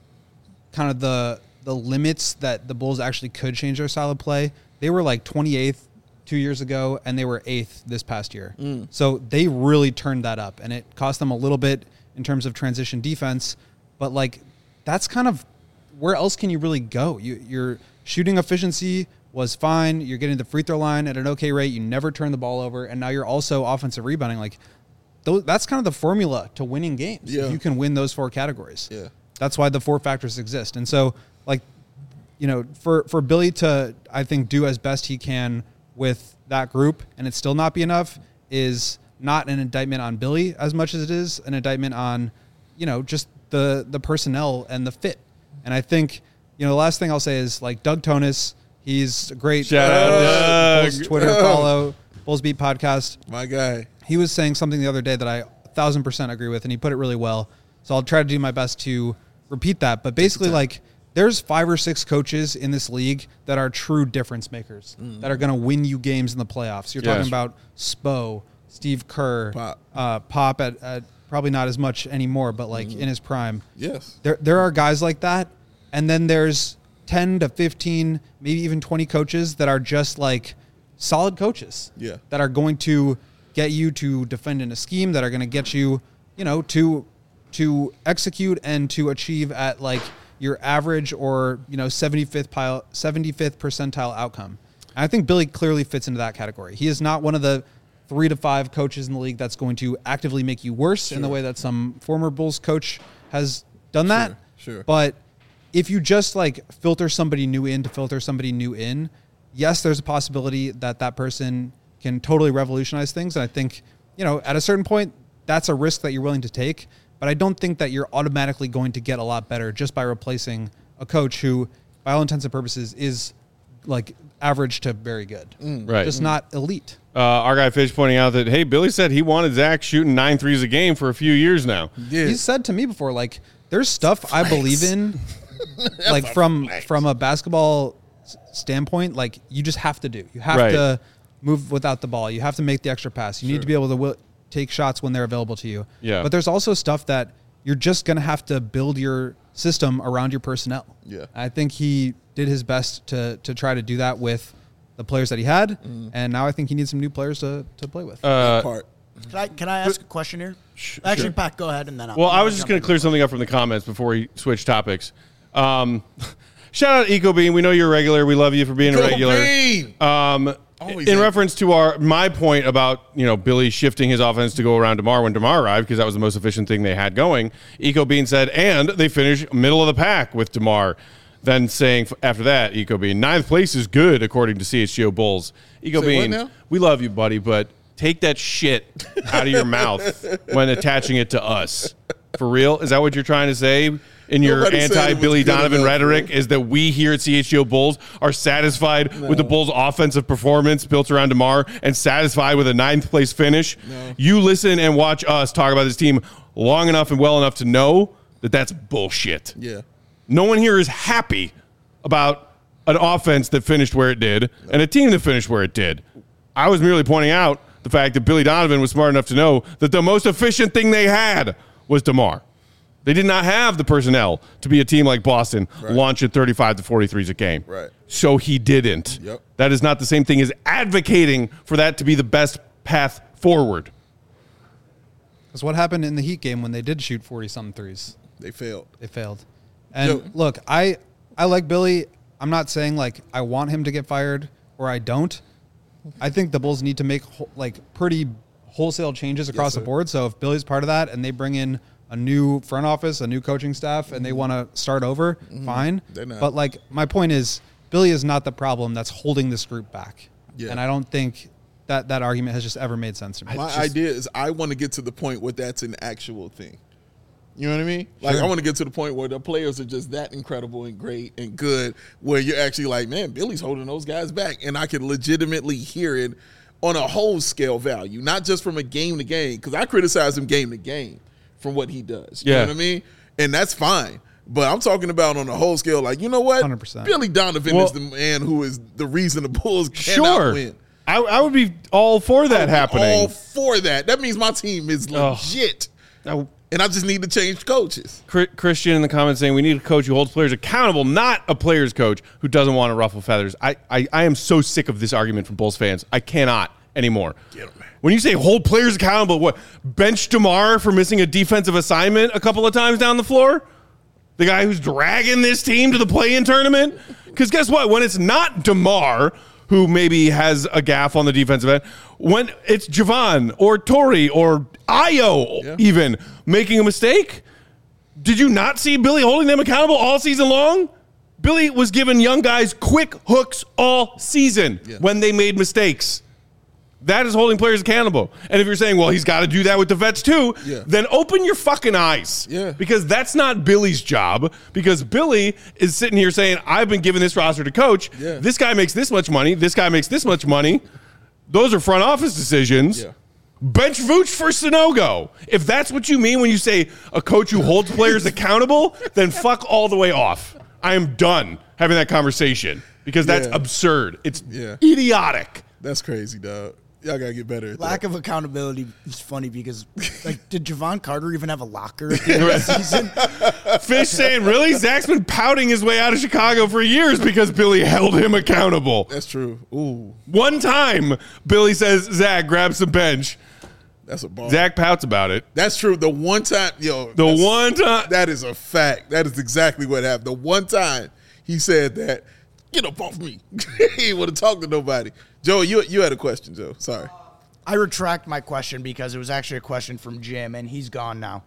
kind of the the limits that the Bulls actually could change their style of play. They were like twenty-eighth two years ago, and they were eighth this past year. Mm. So they really turned that up, and it cost them a little bit in terms of transition defense. But, like, that's kind of where else can you really go? You, your shooting efficiency was fine. You're getting the free throw line at an okay rate. You never turn the ball over, and now you're also offensive rebounding. Like, those, that's kind of the formula to winning games. Yeah. If you can win those four categories. Yeah. That's why the four factors exist. And so, like, you know, for, for Billy to, I think, do as best he can with that group and it still not be enough is not an indictment on Billy as much as it is an indictment on, you know, just the the personnel and the fit. And I think, you know, the last thing I'll say is, like, Doug Tonis, he's a great Shout uh, out Doug. Bulls Twitter follow, Bulls Beat podcast. My guy. He was saying something the other day that I a thousand percent agree with, and he put it really well. So I'll try to do my best to repeat that. But basically, like, there's five or six coaches in this league that are true difference makers, mm. that are going to win you games in the playoffs. You're yes. talking about Spo, Steve Kerr, Pop, uh, Pop at, at probably not as much anymore, but, like, mm. in his prime. Yes. There there are guys like that, and then there's ten to fifteen, maybe even twenty coaches that are just, like, solid coaches. Yeah. That are going to get you to defend in a scheme, that are going to get you, you know, to to execute and to achieve at, like, your average or, you know, seventy-fifth pile, seventy-fifth percentile outcome. And I think Billy clearly fits into that category. He is not one of the three to five coaches in the league that's going to actively make you worse sure. in the way that some former Bulls coach has done sure, that. Sure. But if you just, like, filter somebody new in to filter somebody new in, yes, there's a possibility that that person can totally revolutionize things. And I think, you know, at a certain point, that's a risk that you're willing to take. but I don't think that you're automatically going to get a lot better just by replacing a coach who, by all intents and purposes, is like average to very good. Mm. Right. Just not elite. Uh, our guy Fish pointing out that, hey, Billy said he wanted Zach shooting nine threes a game for a few years now. Yeah. He's said to me before, like, there's stuff I believe in, like from flex. from a basketball s- standpoint, like you just have to do. You have Right. to move without the ball. You have to make the extra pass. You need to be able to wi- take shots when they're available to you. Yeah. But there's also stuff that you're just going to have to build your system around your personnel. Yeah. I think he did his best to to try to do that with the players that he had, Mm-hmm. and now I think he needs some new players to, to play with. Uh, Part. Can I can I ask a question here? Sh- Actually, sure. Pat, go ahead and then I'll. Well, I I'll was just jump going in. to clear something up from the comments before we switch topics. Um, shout out EcoBean. We know you're a regular. We love you for being a Go regular. Bean! Um, Always in happy. reference to our my point about you know Billy shifting his offense to go around DeMar when DeMar arrived because that was the most efficient thing they had going. EcoBean said, and they finish middle of the pack with DeMar. Then saying f- after that, EcoBean, ninth place is good according to C H G O Bulls. Say what EcoBean, now? we love you, buddy, but take that shit out of your mouth when attaching it to us. For real? Is that what you're trying to say in your Nobody said it was anti-Billy good Donovan enough, rhetoric? bro. Is that we here at C H G O Bulls are satisfied with the Bulls' offensive performance built around DeMar and satisfied with a ninth place finish? No. You listen and watch us talk about this team long enough and well enough to know that that's bullshit. Yeah. No one here is happy about an offense that finished where it did and a team that finished where it did. I was merely pointing out the fact that Billy Donovan was smart enough to know that the most efficient thing they had was DeMar. They did not have the personnel to be a team like Boston launching thirty-five to forty-threes a game. Right. So he didn't. Yep. That is not the same thing as advocating for that to be the best path forward. That's what happened in the Heat game when they did shoot forty-something threes. They failed. They failed. And Yo. look, I I like Billy. I'm not saying like I want him to get fired or I don't. I think the Bulls need to make wh- like pretty wholesale changes across sir. the board. So if Billy's part of that and they bring in a new front office, a new coaching staff, and they want to start over, fine. They're not. But like my point is, Billy is not the problem that's holding this group back. Yeah. And I don't think that that argument has just ever made sense to me. My It's just- idea is I want to get to the point where that's an actual thing. You know what I mean? Like, Sure. I want to get to the point where the players are just that incredible and great and good, where you're actually like, man, Billy's holding those guys back. And I can legitimately hear it on a whole scale value, not just from a game to game, because I criticize him game to game from what he does. You Yeah. know what I mean? And that's fine. But I'm talking about on a whole scale, like, you know what? one hundred percent. Billy Donovan Well- is the man who is the reason the Bulls cannot Sure. win. I, I would be all for that happening. All for that. That means my team is legit. Now, And I just need to change coaches. Chri- Christian in the comments saying we need a coach who holds players accountable, not a player's coach who doesn't want to ruffle feathers. I, I, I am so sick of this argument from Bulls fans. I cannot anymore. Get 'em, man. When you say hold players accountable, what, bench DeMar for missing a defensive assignment a couple of times down the floor? The guy who's dragging this team to the play-in tournament? Because guess what? When it's not DeMar, who maybe has a gaff on the defensive end, when it's Javon or Torrey or Ayo Yeah. even making a mistake, did you not see Billy holding them accountable all season long? Billy was giving young guys quick hooks all season Yeah. when they made mistakes. That is holding players accountable. And if you're saying, well, he's got to do that with the vets too, Yeah. then open your fucking eyes. Yeah. Because that's not Billy's job. Because Billy is sitting here saying, I've been given this roster to coach. Yeah. This guy makes this much money. This guy makes this much money. Those are front office decisions. Yeah. Bench Vooch for Sonogo. If that's what you mean when you say a coach who holds players accountable, then fuck all the way off. I am done having that conversation because that's Yeah. absurd. It's Yeah. idiotic. That's crazy, dog. Y'all got to get better at Lack that. of accountability is funny because, like, did Javon Carter even have a locker at the end of the season? Fish saying, really? Zach's been pouting his way out of Chicago for years because Billy held him accountable. That's true. Ooh, One time, Billy says, Zach, grab some bench. that's a ball. Zach pouts about it. That's true. The one time, yo. The that's- one time. That is a fact. That is exactly what happened. The one time he said that, get up off me. He ain't want to talk to nobody. Joe, you you had a question, Joe. Sorry. I retract my question because it was actually a question from Jim, and he's gone now.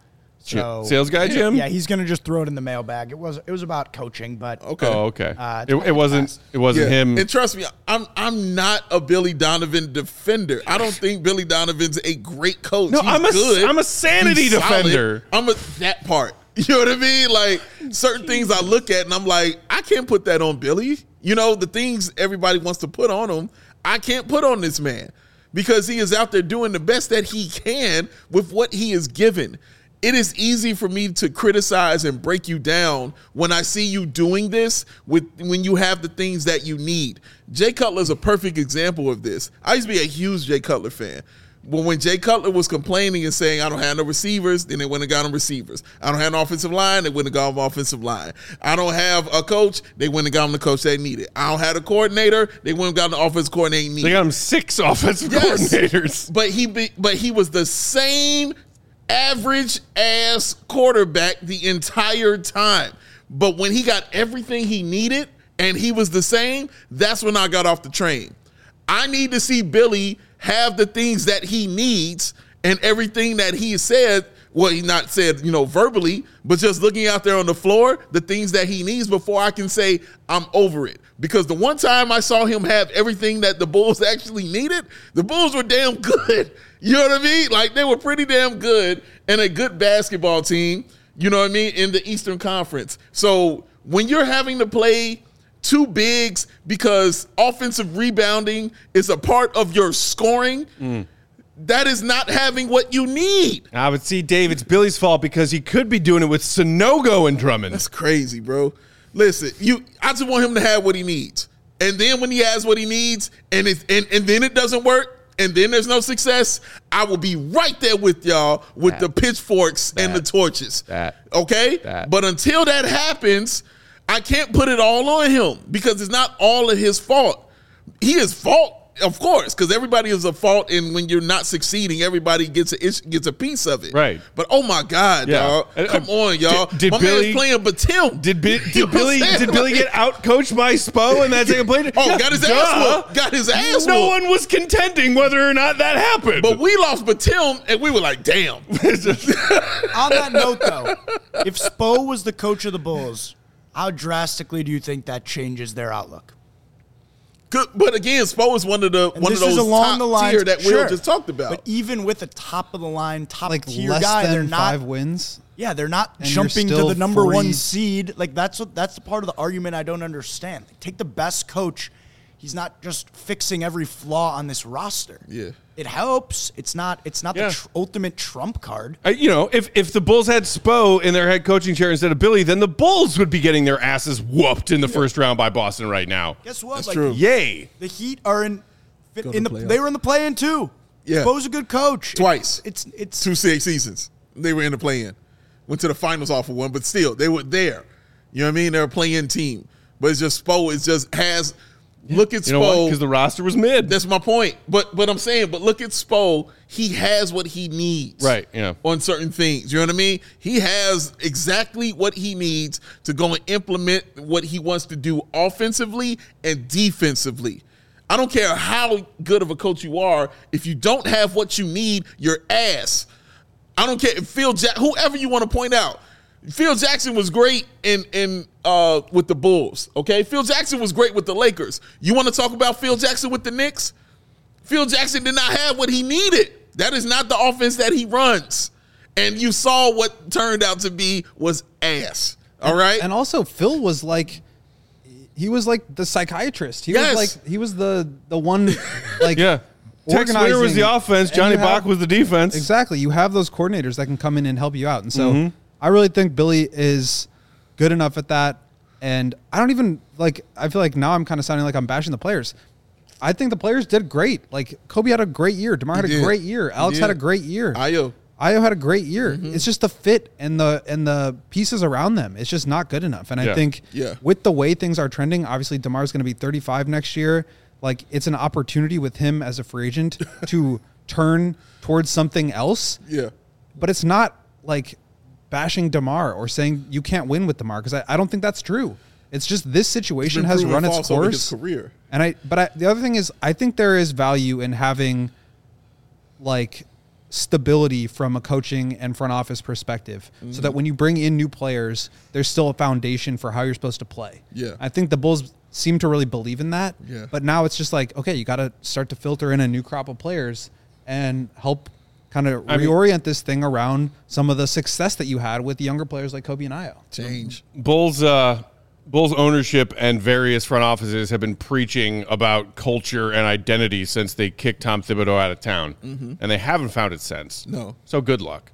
So Sales guy, Jim? Yeah, he's going to just throw it in the mailbag. It was it was about coaching, but Okay. Oh, okay. Uh, it, it wasn't. It wasn't Yeah. him. And trust me, I'm I'm not a Billy Donovan defender. I don't think Billy Donovan's a great coach. No, He's I'm a- good. I'm a sanity He's solid. defender. I'm a that part. You know what I mean? Like certain things I look at and I'm like, I can't put that on Billy. You know, the things everybody wants to put on him, I can't put on this man because he is out there doing the best that he can with what he is given. It is easy for me to criticize and break you down when I see you doing this with when you have the things that you need. Jay Cutler is a perfect example of this. I used to be a huge Jay Cutler fan. But when Jay Cutler was complaining and saying, I don't have no receivers, then they went and got him receivers. I don't have an offensive line, they went and got him offensive line. I don't have a coach, they went and got him the coach they needed. I don't have a coordinator, they went and got an offensive coordinator they needed. They got him six offensive Yes. coordinators. But he be, but he was the same average ass quarterback the entire time. But when he got everything he needed and he was the same, that's when I got off the train. I need to see Billy have the things that he needs and everything that he said. Well, he not said, you know, verbally, but just looking out there on the floor, the things that he needs before I can say I'm over it. Because the one time I saw him have everything that the Bulls actually needed, the Bulls were damn good. You know what I mean? Like they were pretty damn good and a good basketball team, you know what I mean, in the Eastern Conference. So when you're having to play two bigs because offensive rebounding is a part of your scoring, mm. that is not having what you need. I would see Dave, it's Billy's fault because he could be doing it with Sonogo and Drummond. That's crazy, bro. Listen, you. I just want him to have what he needs. And then when he has what he needs and, it, and, and then it doesn't work and then there's no success, I will be right there with y'all with that, the pitchforks that, and the torches. That, okay? That. But until that happens, I can't put it all on him because it's not all of his fault. He is fault, of course, because everybody is a fault, and when you're not succeeding, everybody gets a gets a piece of it. Right. But oh my God, Yeah. y'all, Uh, come on, y'all. Did, did my Billy man's playing Batum? Did, Bi- You did know Billy what I'm did saying? Billy get out coached by Spo in that second play? Oh, Yeah, got his duh. ass whooped. Got his ass No whooped. one was contending whether or not that happened. But we lost Batum, and we were like, damn. On that note, though, if Spo was the coach of the Bulls, how drastically do you think that changes their outlook? Good, but again, Spo is one of the And one of this those is along top the line tier that sure. Will just talked about. But even with a top of the line, top Like tier less guy, they're than not. five wins. Yeah, they're not And you're jumping to still the number one forty seed. Like that's what that's the part of the argument I don't understand. Like, take the best coach. He's not just fixing every flaw on this roster. Yeah. It helps. It's not. It's not Yeah. the tr- ultimate trump card. Uh, you know, if, if the Bulls had Spo in their head coaching chair instead of Billy, then the Bulls would be getting their asses whooped in the first round by Boston right now. Guess what? That's like, true. Yay. The Heat are in. Go in to the, playoffs. they were in the play-in too. Yeah. Spo's a good coach. Twice. It's it's Two six seasons. They were in the play-in. Went to the finals off of one, but still, they were there. You know what I mean? They're a play-in team. But it's just Spo is just has look at You know what? Spo. Because the roster was mid. That's my point. But but I'm saying, but look at Spo. He has what he needs. Right, yeah. On certain things. You know what I mean? He has exactly what he needs to go and implement what he wants to do offensively and defensively. I don't care how good of a coach you are. If you don't have what you need, you're ass. I don't care if Phil Jack, whoever you want to point out. Phil Jackson was great in in uh, with the Bulls. Okay, Phil Jackson was great with the Lakers. You want to talk about Phil Jackson with the Knicks? Phil Jackson did not have what he needed. That is not the offense that he runs. And you saw what turned out to be was ass. All right. And also, Phil was like, he was like the psychiatrist. He Yes. was like, he was the the one, like, yeah. Tex Winter was the organizing. offense. And Johnny you have- Bach was the defense. Exactly. You have those coordinators that can come in and help you out. And so Mm-hmm. I really think Billy is good enough at that. And I don't even like, I feel like now I'm kind of sounding like I'm bashing the players. I think the players did great. Like Kobe had a great year. DeMar had a did. great year. Alex did. had a great year. Ayo. Ayo had a great year. Mm-hmm. It's just the fit and the and the pieces around them. It's just not good enough. And Yeah. I think Yeah. with the way things are trending, obviously DeMar's going to be thirty-five next year. Like it's an opportunity with him as a free agent to turn towards something else. Yeah. But it's not like bashing DeMar or saying you can't win with DeMar because I, I don't think that's true. It's just this situation Been has proven run its false over course. his career. And I, but I, the other thing is, I think there is value in having, like, stability from a coaching and front office perspective, mm-hmm. so that when you bring in new players, there's still a foundation for how you're supposed to play. Yeah. I think the Bulls seem to really believe in that. Yeah. But now it's just like, okay, you got to start to filter in a new crop of players and help kind of I reorient mean, this thing around some of the success that you had with younger players like Kobe and Ayo. Change. Bulls, uh, Bulls ownership and various front offices have been preaching about culture and identity since they kicked Tom Thibodeau out of town, mm-hmm. and they haven't found it since. No. So good luck.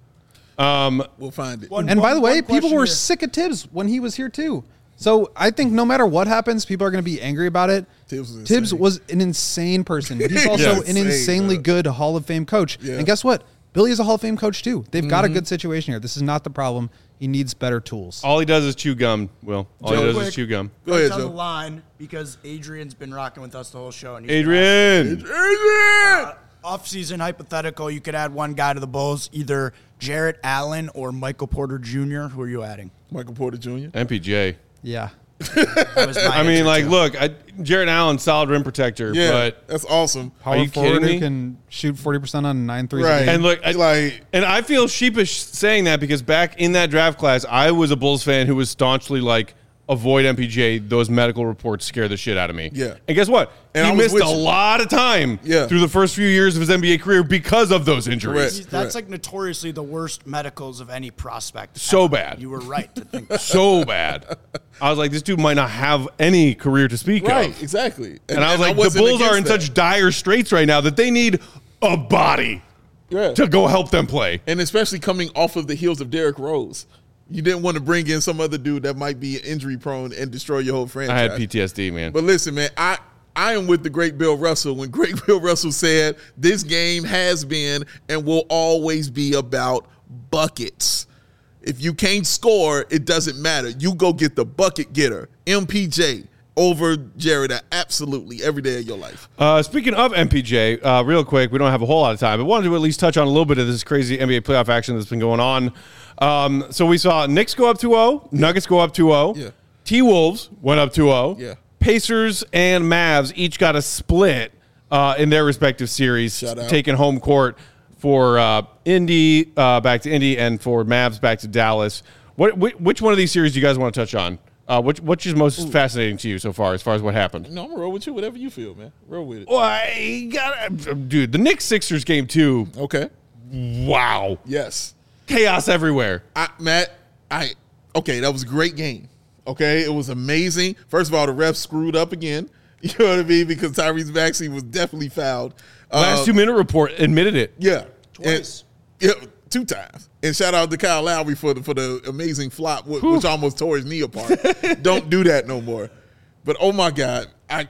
Um, we'll find it. One, and one, by the way, people were here. sick of Tibbs when he was here too. So I think no matter what happens, people are going to be angry about it. Tibbs was, Tibbs insane. was an insane person. He's also Yeah, an insane, insanely bro. good Hall of Fame coach. Yeah. And guess what? Billy is a Hall of Fame coach too. They've got a Mm-hmm. good situation here. This is not the problem. He needs better tools. all he does is chew gum, Will. All Joe, he does quick. is chew gum. Go ahead, It's on the Joe. line because Adrian's been rocking with us the whole show. And he's Adrian! Adrian! Uh, off-season hypothetical, you could add one guy to the Bulls, either Jarrett Allen or Michael Porter Junior Who are you adding? Michael Porter Junior M P J. Yeah. That was my I mean, answer, like, too. look, I, Jarrett Allen, solid rim protector, Yeah, but that's awesome. Power you forward kidding who me? can shoot forty percent on nine threes. Right. A game. and look, I, Like, and I feel sheepish saying that because back in that draft class, I was a Bulls fan who was staunchly like, avoid M P J. Those medical reports scare the shit out of me. Yeah. And guess what? And I he was missed a with you. lot of time Yeah. through the first few years of his N B A career because of those injuries. Correct. He's- That's like notoriously the worst medicals of any prospect. So ever. bad. You were right to think that. So bad. I was like, this dude might not have any career to speak right, of. exactly. And, I was like, the wasn't Bulls are in against that. such dire straits right now that they need a body Yeah. to go help them play. And especially coming off of the heels of Derrick Rose. You didn't want to bring in some other dude that might be injury prone and destroy your whole franchise. I had P T S D, man. But listen, man, I, I am with the great Bill Russell when great Bill Russell said this game has been and will always be about buckets. If you can't score, it doesn't matter. You go get the bucket getter, M P J, over Jared absolutely every day of your life. Uh, speaking of M P J, uh, real quick, we don't have a whole lot of time, but wanted to at least touch on a little bit of this crazy N B A playoff action that's been going on. Um, so we saw Knicks go up two oh, Nuggets go up two oh, Yeah. T-Wolves went up two oh, Yeah. Pacers and Mavs each got a split uh, in their respective series, Shout out. taking home court for uh, Indy uh, back to Indy and for Mavs back to Dallas. What, which, which one of these series do you guys want to touch on? Uh, which which is most fascinating to you so far, as far as what happened? No, I'm gonna roll with you, whatever you feel, man. Roll with it. Well, I got dude. The Knicks Sixers game two. Okay. Wow, Yes. chaos everywhere. I, Matt, I okay, that was a great game. Okay, it was amazing. First of all, the refs screwed up again. You know what I mean? Because Tyrese Maxey was definitely fouled. Last Uh, two minute report admitted it. yeah, Twice. And- yeah, two times. And shout out to Kyle Lowry for the for the amazing flop, which, which almost tore his knee apart. Don't do that no more. But oh my God, I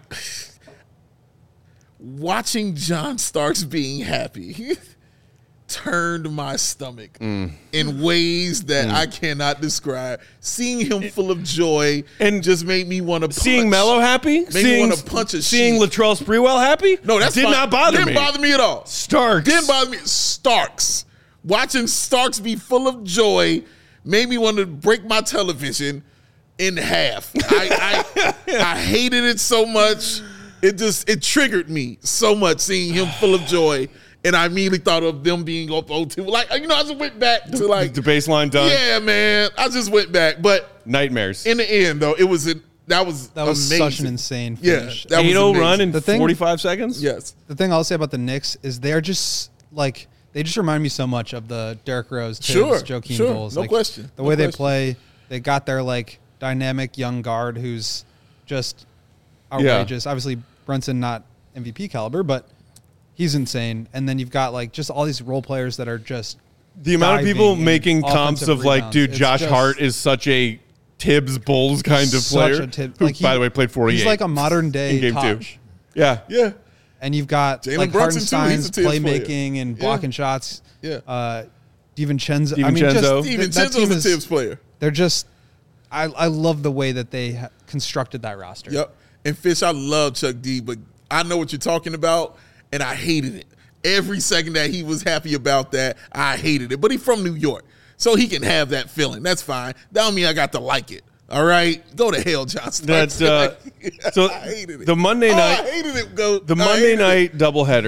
watching John Starks being happy turned my stomach Mm. in ways that I cannot describe. Seeing him full of joy and And just made me want to Seeing Melo happy, me seeing wanna punch a seeing sheep. Latrell Sprewell happy. No, that's did fine. not bother Didn't me. bother me at all. Starks Didn't bother me. Starks. Watching Starks be full of joy made me want to break my television in half. I, I, I hated it so much. It just it triggered me so much seeing him full of joy. And I immediately thought of them being up oh two. Like, you know, I just went back to like the baseline done. yeah, man. I just went back. But Nightmares. in the end, though, it was a, that was That was amazing. such an insane Yeah, finish. that was eight oh amazing. run in The thing- forty-five seconds. Yes. The thing I'll say about the Knicks is they're just like they just remind me so much of the Derrick Rose, Tibbs, Sure, Joakim sure. Bulls. No Like, question. The No way they question. play, they got their like dynamic young guard who's just outrageous. Obviously, Brunson not M V P caliber, but he's insane. And then you've got like just all these role players that are just The amount of people diving and making comps offensive of like, rebounds. dude, It's Josh just Hart is such a Tibbs Bulls kind of such player. a Tibbs- who, like, he- by the way, played forty-eight. He's like a modern day in game two. Taj. Yeah, Yeah. And you've got Jalen like Brunson, too. He's Hartenstein's a Tibbs player. playmaking and Yeah. blocking shots. Yeah. Uh, DiVincenzo. I mean, DiVincenzo. just, Steve th- that team Vincenzo's a is- Tibbs player. They're just, I, I love the way that they ha- constructed that roster. Yep. And Fish, I love Chuck D, but I know what you're talking about, and I hated it. Every second that he was happy about that, I hated it. But he's from New York, so he can have that feeling. That's fine. That don't mean I got to like it. All right? Go to hell, John Starks. That's uh, so I hated it. the Monday Oh, night. I hated it. Go. The I Monday hated it. night doubleheader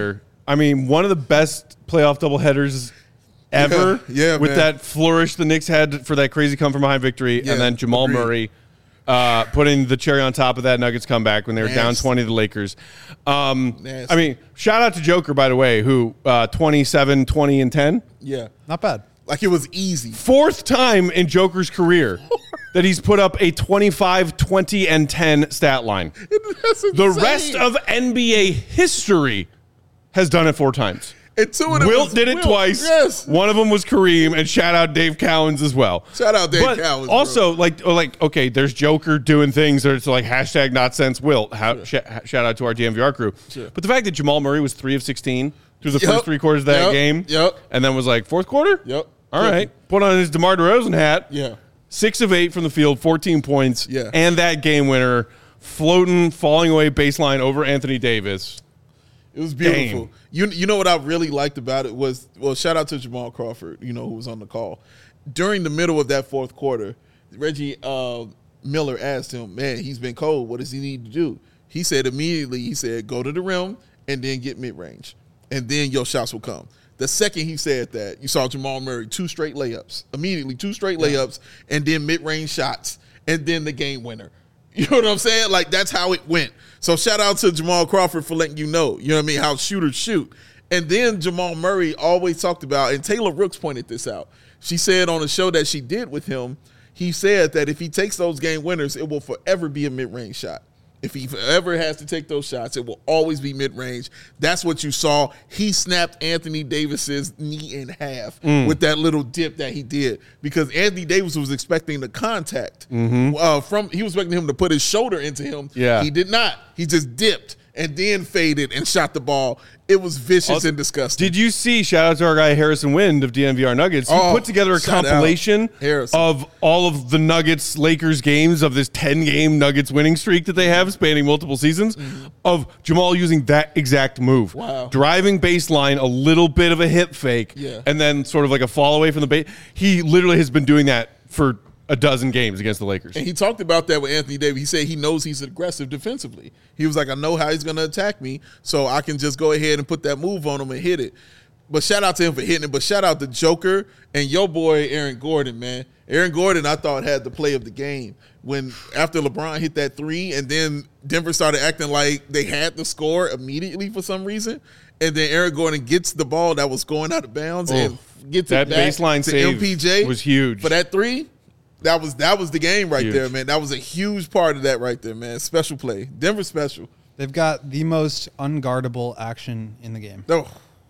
I mean, one of the best playoff doubleheaders ever. Yeah, yeah, with man. that flourish the Knicks had for that crazy come from behind victory, Yeah, and then Jamal agreed. Murray uh, putting the cherry on top of that Nuggets comeback when they were down Nasty. twenty to the Lakers. Um, Nasty. I mean, shout out to Joker, by the way, who uh, twenty-seven, twenty, and ten. Yeah. Not bad. Like it was easy. Fourth time in Joker's career that he's put up a twenty-five, twenty, and ten stat line. That's The insane. rest of N B A history has done it four times. And two of them Wilt was did it Wilt. twice. Yes. One of them was Kareem, and shout out Dave Cowens as well. Shout out Dave but Cowens, bro. Also, like, like, okay, there's Joker doing things that it's like hashtag not since Wilt. How, sh- shout out to our D M V R crew. Sure. But the fact that Jamal Murray was three of sixteen through the Yep. first three quarters of that Yep. game, Yep. and then was like fourth quarter. Yep. All right, put on his DeMar DeRozan hat. Yeah. Six of eight from the field, fourteen points. Yeah. And that game winner, floating, falling away baseline over Anthony Davis. It was beautiful. Dang. You you know what I really liked about it was, well, shout out to Jamal Crawford, you know, who was on the call. During the middle of that fourth quarter, Reggie uh, Miller asked him, man, he's been cold. What does he need to do? He said immediately, he said, go to the rim and then get mid-range. And then your shots will come. The second he said that, you saw Jamal Murray, two straight layups. Immediately, two straight layups and then mid-range shots and then the game winner. You know what I'm saying? Like, that's how it went. So shout out to Jamal Crawford for letting you know, you know what I mean, how shooters shoot. And then Jamal Murray always talked about, and Taylor Rooks pointed this out. She said on a show that she did with him, he said that if he takes those game winners, it will forever be a mid-range shot. If he ever has to take those shots, it will always be mid-range. That's what you saw. He snapped Anthony Davis's knee in half Mm. with that little dip that he did because Anthony Davis was expecting the contact uh, from. He was expecting him to put his shoulder into him. Yeah. He did not. He just dipped and then faded and shot the ball. It was vicious Also, and disgusting. Did you see, shout out to our guy Harrison Wind of D M V R Nuggets, who Oh, put together a shout out. compilation Harrison. of all of the Nuggets Lakers games of this ten-game Nuggets winning streak that they have spanning multiple seasons of Jamal using that exact move. Mm-hmm. Wow. Driving baseline, a little bit of a hip fake, Yeah. and then sort of like a fall away from the base. He literally has been doing that for a dozen games against the Lakers. And he talked about that with Anthony Davis. He said he knows he's aggressive defensively. He was like, I know how he's going to attack me, so I can just go ahead and put that move on him and hit it. But shout out to him for hitting it. But shout out to Joker and your boy Aaron Gordon, man. Aaron Gordon, I thought, had the play of the game. When after LeBron hit that three and then Denver started acting like they had the score immediately for some reason, and then Aaron Gordon gets the ball that was going out of bounds Oh, and gets that it back baseline to save M P J was huge. for that three. That was that was the game right Huge. there, man. That was a huge part of that right there, man. Special play. Denver special. They've got the most unguardable action in the game. Oh,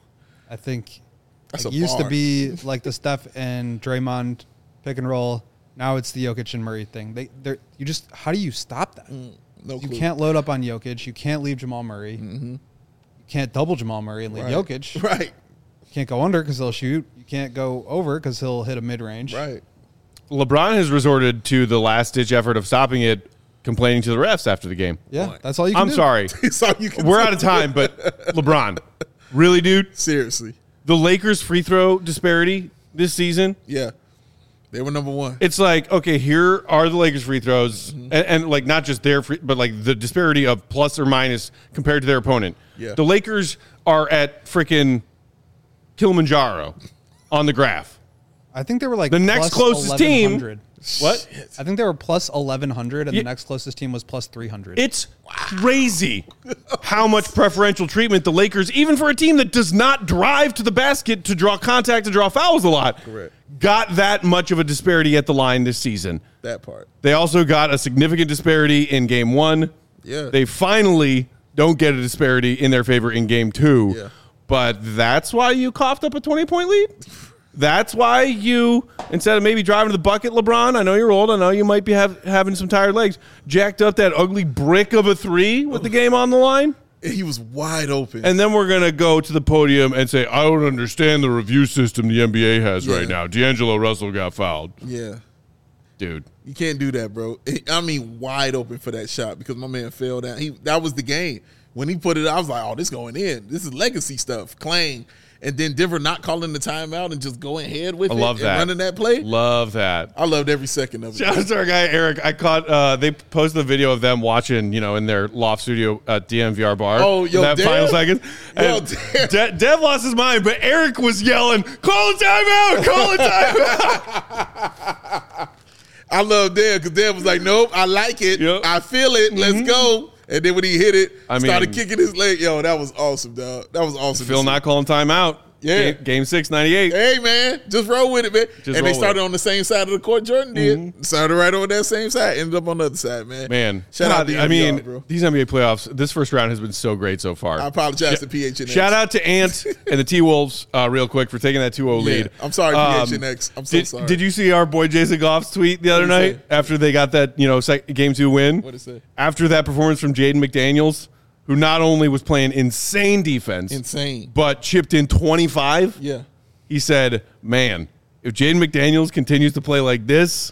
I think That's it a used to bar. be like the Steph and Draymond pick and roll. Now it's the Jokic and Murray thing. They, they're you just how do you stop that? no You clue. can't load up on Jokic. You can't leave Jamal Murray. Mm-hmm. You can't double Jamal Murray and leave right. Jokic. Right, You can't go under because he'll shoot. You can't go over because he'll hit a mid range. right. LeBron has resorted to the last-ditch effort of stopping it, complaining to the refs after the game. Yeah, What? that's all you can I'm do. sorry. It's all you can We're do. out of time, but LeBron, really, dude? Seriously, The Lakers' free throw disparity this season, yeah, they were number one. it's like, okay, here are the Lakers' free throws, and, and like not just their free, but like the disparity of plus or minus compared to their opponent. Yeah. The Lakers are at freaking Kilimanjaro on the graph. I think they were like The next plus closest team- eleven hundred. What? I think they were plus eleven hundred, and Yeah. the next closest team was plus three hundred. It's crazy how much preferential treatment the Lakers, even for a team that does not drive to the basket to draw contact, to draw fouls a lot, Correct. got that much of a disparity at the line this season. That part. They also got a significant disparity in game one. Yeah. They finally don't get a disparity in their favor in game two. Yeah. But that's why you coughed up a twenty-point lead? That's why you, instead of maybe driving to the bucket, LeBron, I know you're old, I know you might be have, having some tired legs, jacked up that ugly brick of a three with the game on the line? And he was wide open. And then we're going to go to the podium and say, I don't understand the review system the N B A has Yeah. right now. D'Angelo Russell got fouled. yeah. Dude. You can't do that, bro. I mean, wide open for that shot because my man fell down. He that was the game when he put it. I was like, "Oh, this going in. This is legacy stuff." Clang, and then Denver not calling the timeout and just going ahead with I it love and that. running that play. Love that. I loved every second of it. Shout out to our guy Eric. I caught. Uh, they posted the video of them watching, you know, in their loft studio at D M V R bar. Oh, yo, that Dev? final seconds. Yo, And Dev. De- Dev lost his mind, but Eric was yelling, "Call a timeout! Call a timeout!" I love Dev because Dev was like, nope, I like it. Yep. I feel it. Let's go. And then when he hit it, I started mean- kicking his leg. Yo, that was awesome, dog. That was awesome. to Phil see. not calling timeout. Yeah. Game, game six, ninety-eight. Hey, man, just roll with it, man. Just and roll they with started it. on the same side of the court Jordan did. Mm-hmm. Started right on that same side. Ended up on the other side, man. Man, Shout out to I mean, bro. these N B A playoffs, this first round has been so great so far. I apologize to P H N X. Shout out to Ant and the T-Wolves uh, real quick for taking that two oh Yeah, lead. I'm sorry, Um, P H N X. I'm so did, sorry. Did you see our boy Jason Goff's tweet the other What'd he night say? after they got that, you know, sec- game two win? What'd he say? After that performance from Jaden McDaniels, who not only was playing insane defense, Insane. but chipped in twenty-five. Yeah. He said, man, if Jaden McDaniels continues to play like this,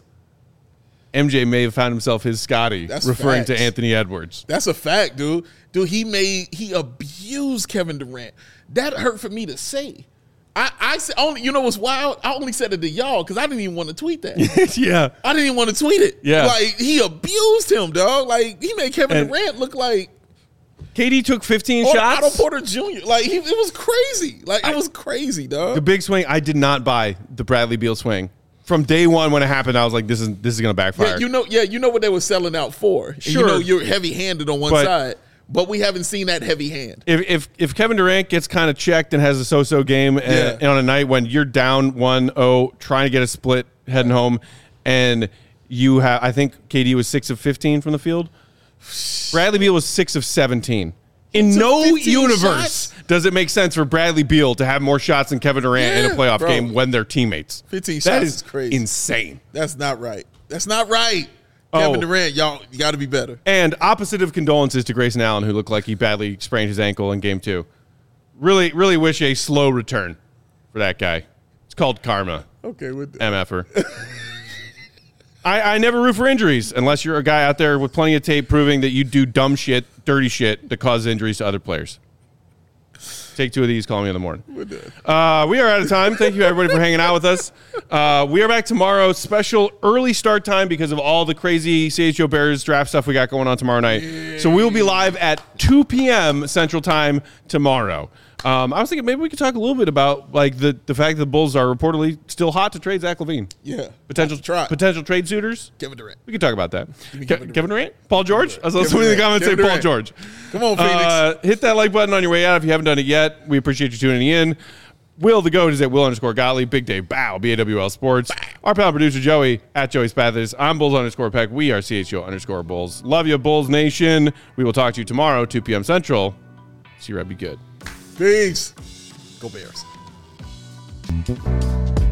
M J may have found himself his Scotty, That's referring to facts. Anthony Edwards. That's a fact, dude. Dude, he made he abused Kevin Durant. That hurt for me to say. I, I said only you know what's wild? I only said it to y'all because I didn't even want to tweet that. Yeah. I didn't even want to tweet it. Yeah. Like he abused him, dog. Like he made Kevin And- Durant look like K D took fifteen Otto shots. Porter Junior Like he, it was crazy. Like it was crazy, dog. The big swing, I did not buy the Bradley Beal swing. From day one when it happened, I was like, this is this is going to backfire. Yeah, you know, yeah, you know what they were selling out for. And Sure. You know, you're heavy-handed on one But- side, but we haven't seen that heavy hand. if, if if Kevin Durant gets kind of checked and has a so-so game and, Yeah. and on a night when you're down one oh, trying to get a split, heading home, and you have, I think K D was six of fifteen from the field. Bradley Beal was six of seventeen. In Took no fifteen universe shots? does it make sense for Bradley Beal to have more shots than Kevin Durant in a Yeah, playoff bro. game when they're teammates. fifteen That shots is is crazy. insane. That's not right. That's not right. Oh. Kevin Durant, y'all, you got to be better. And opposite of condolences to Grayson Allen, who looked like he badly sprained his ankle in game two. Really, really wish a slow return for that guy. It's called karma, Okay, with M F er. I, I never root for injuries unless you're a guy out there with plenty of tape proving that you do dumb shit, dirty shit that causes injuries to other players. Take two of these, call me in the morning. Uh, we are out of time. Thank you, everybody, for hanging out with us. Uh, we are back tomorrow. Special early start time because of all the crazy C H O Bears draft stuff we got going on tomorrow night. So we will be live at two p.m. Central Time tomorrow. Um, I was thinking maybe we could talk a little bit about like the, the fact that the Bulls are reportedly still hot to trade Zach LaVine. Yeah. Potential Try. potential trade suitors. Kevin Durant. We could talk about that. me Ke- Kevin Kevin, Durant. Durant? Paul George? I saw Kevin somebody in the Durant. comments say Kevin Paul Durant. George. Come on, Phoenix. Uh, hit that like button on your way out if you haven't done it yet. We appreciate you tuning in. Will the GOAT is at Will underscore Gottlieb. Big Dave Bow, B A W L Sports. Our pal producer Joey at Joey Spathis. I'm Bulls underscore Peck. We are C H O underscore Bulls. Love you, Bulls Nation. We will talk to you tomorrow, two p.m. Central. See you, Red. Be good. Peace. Go Bears.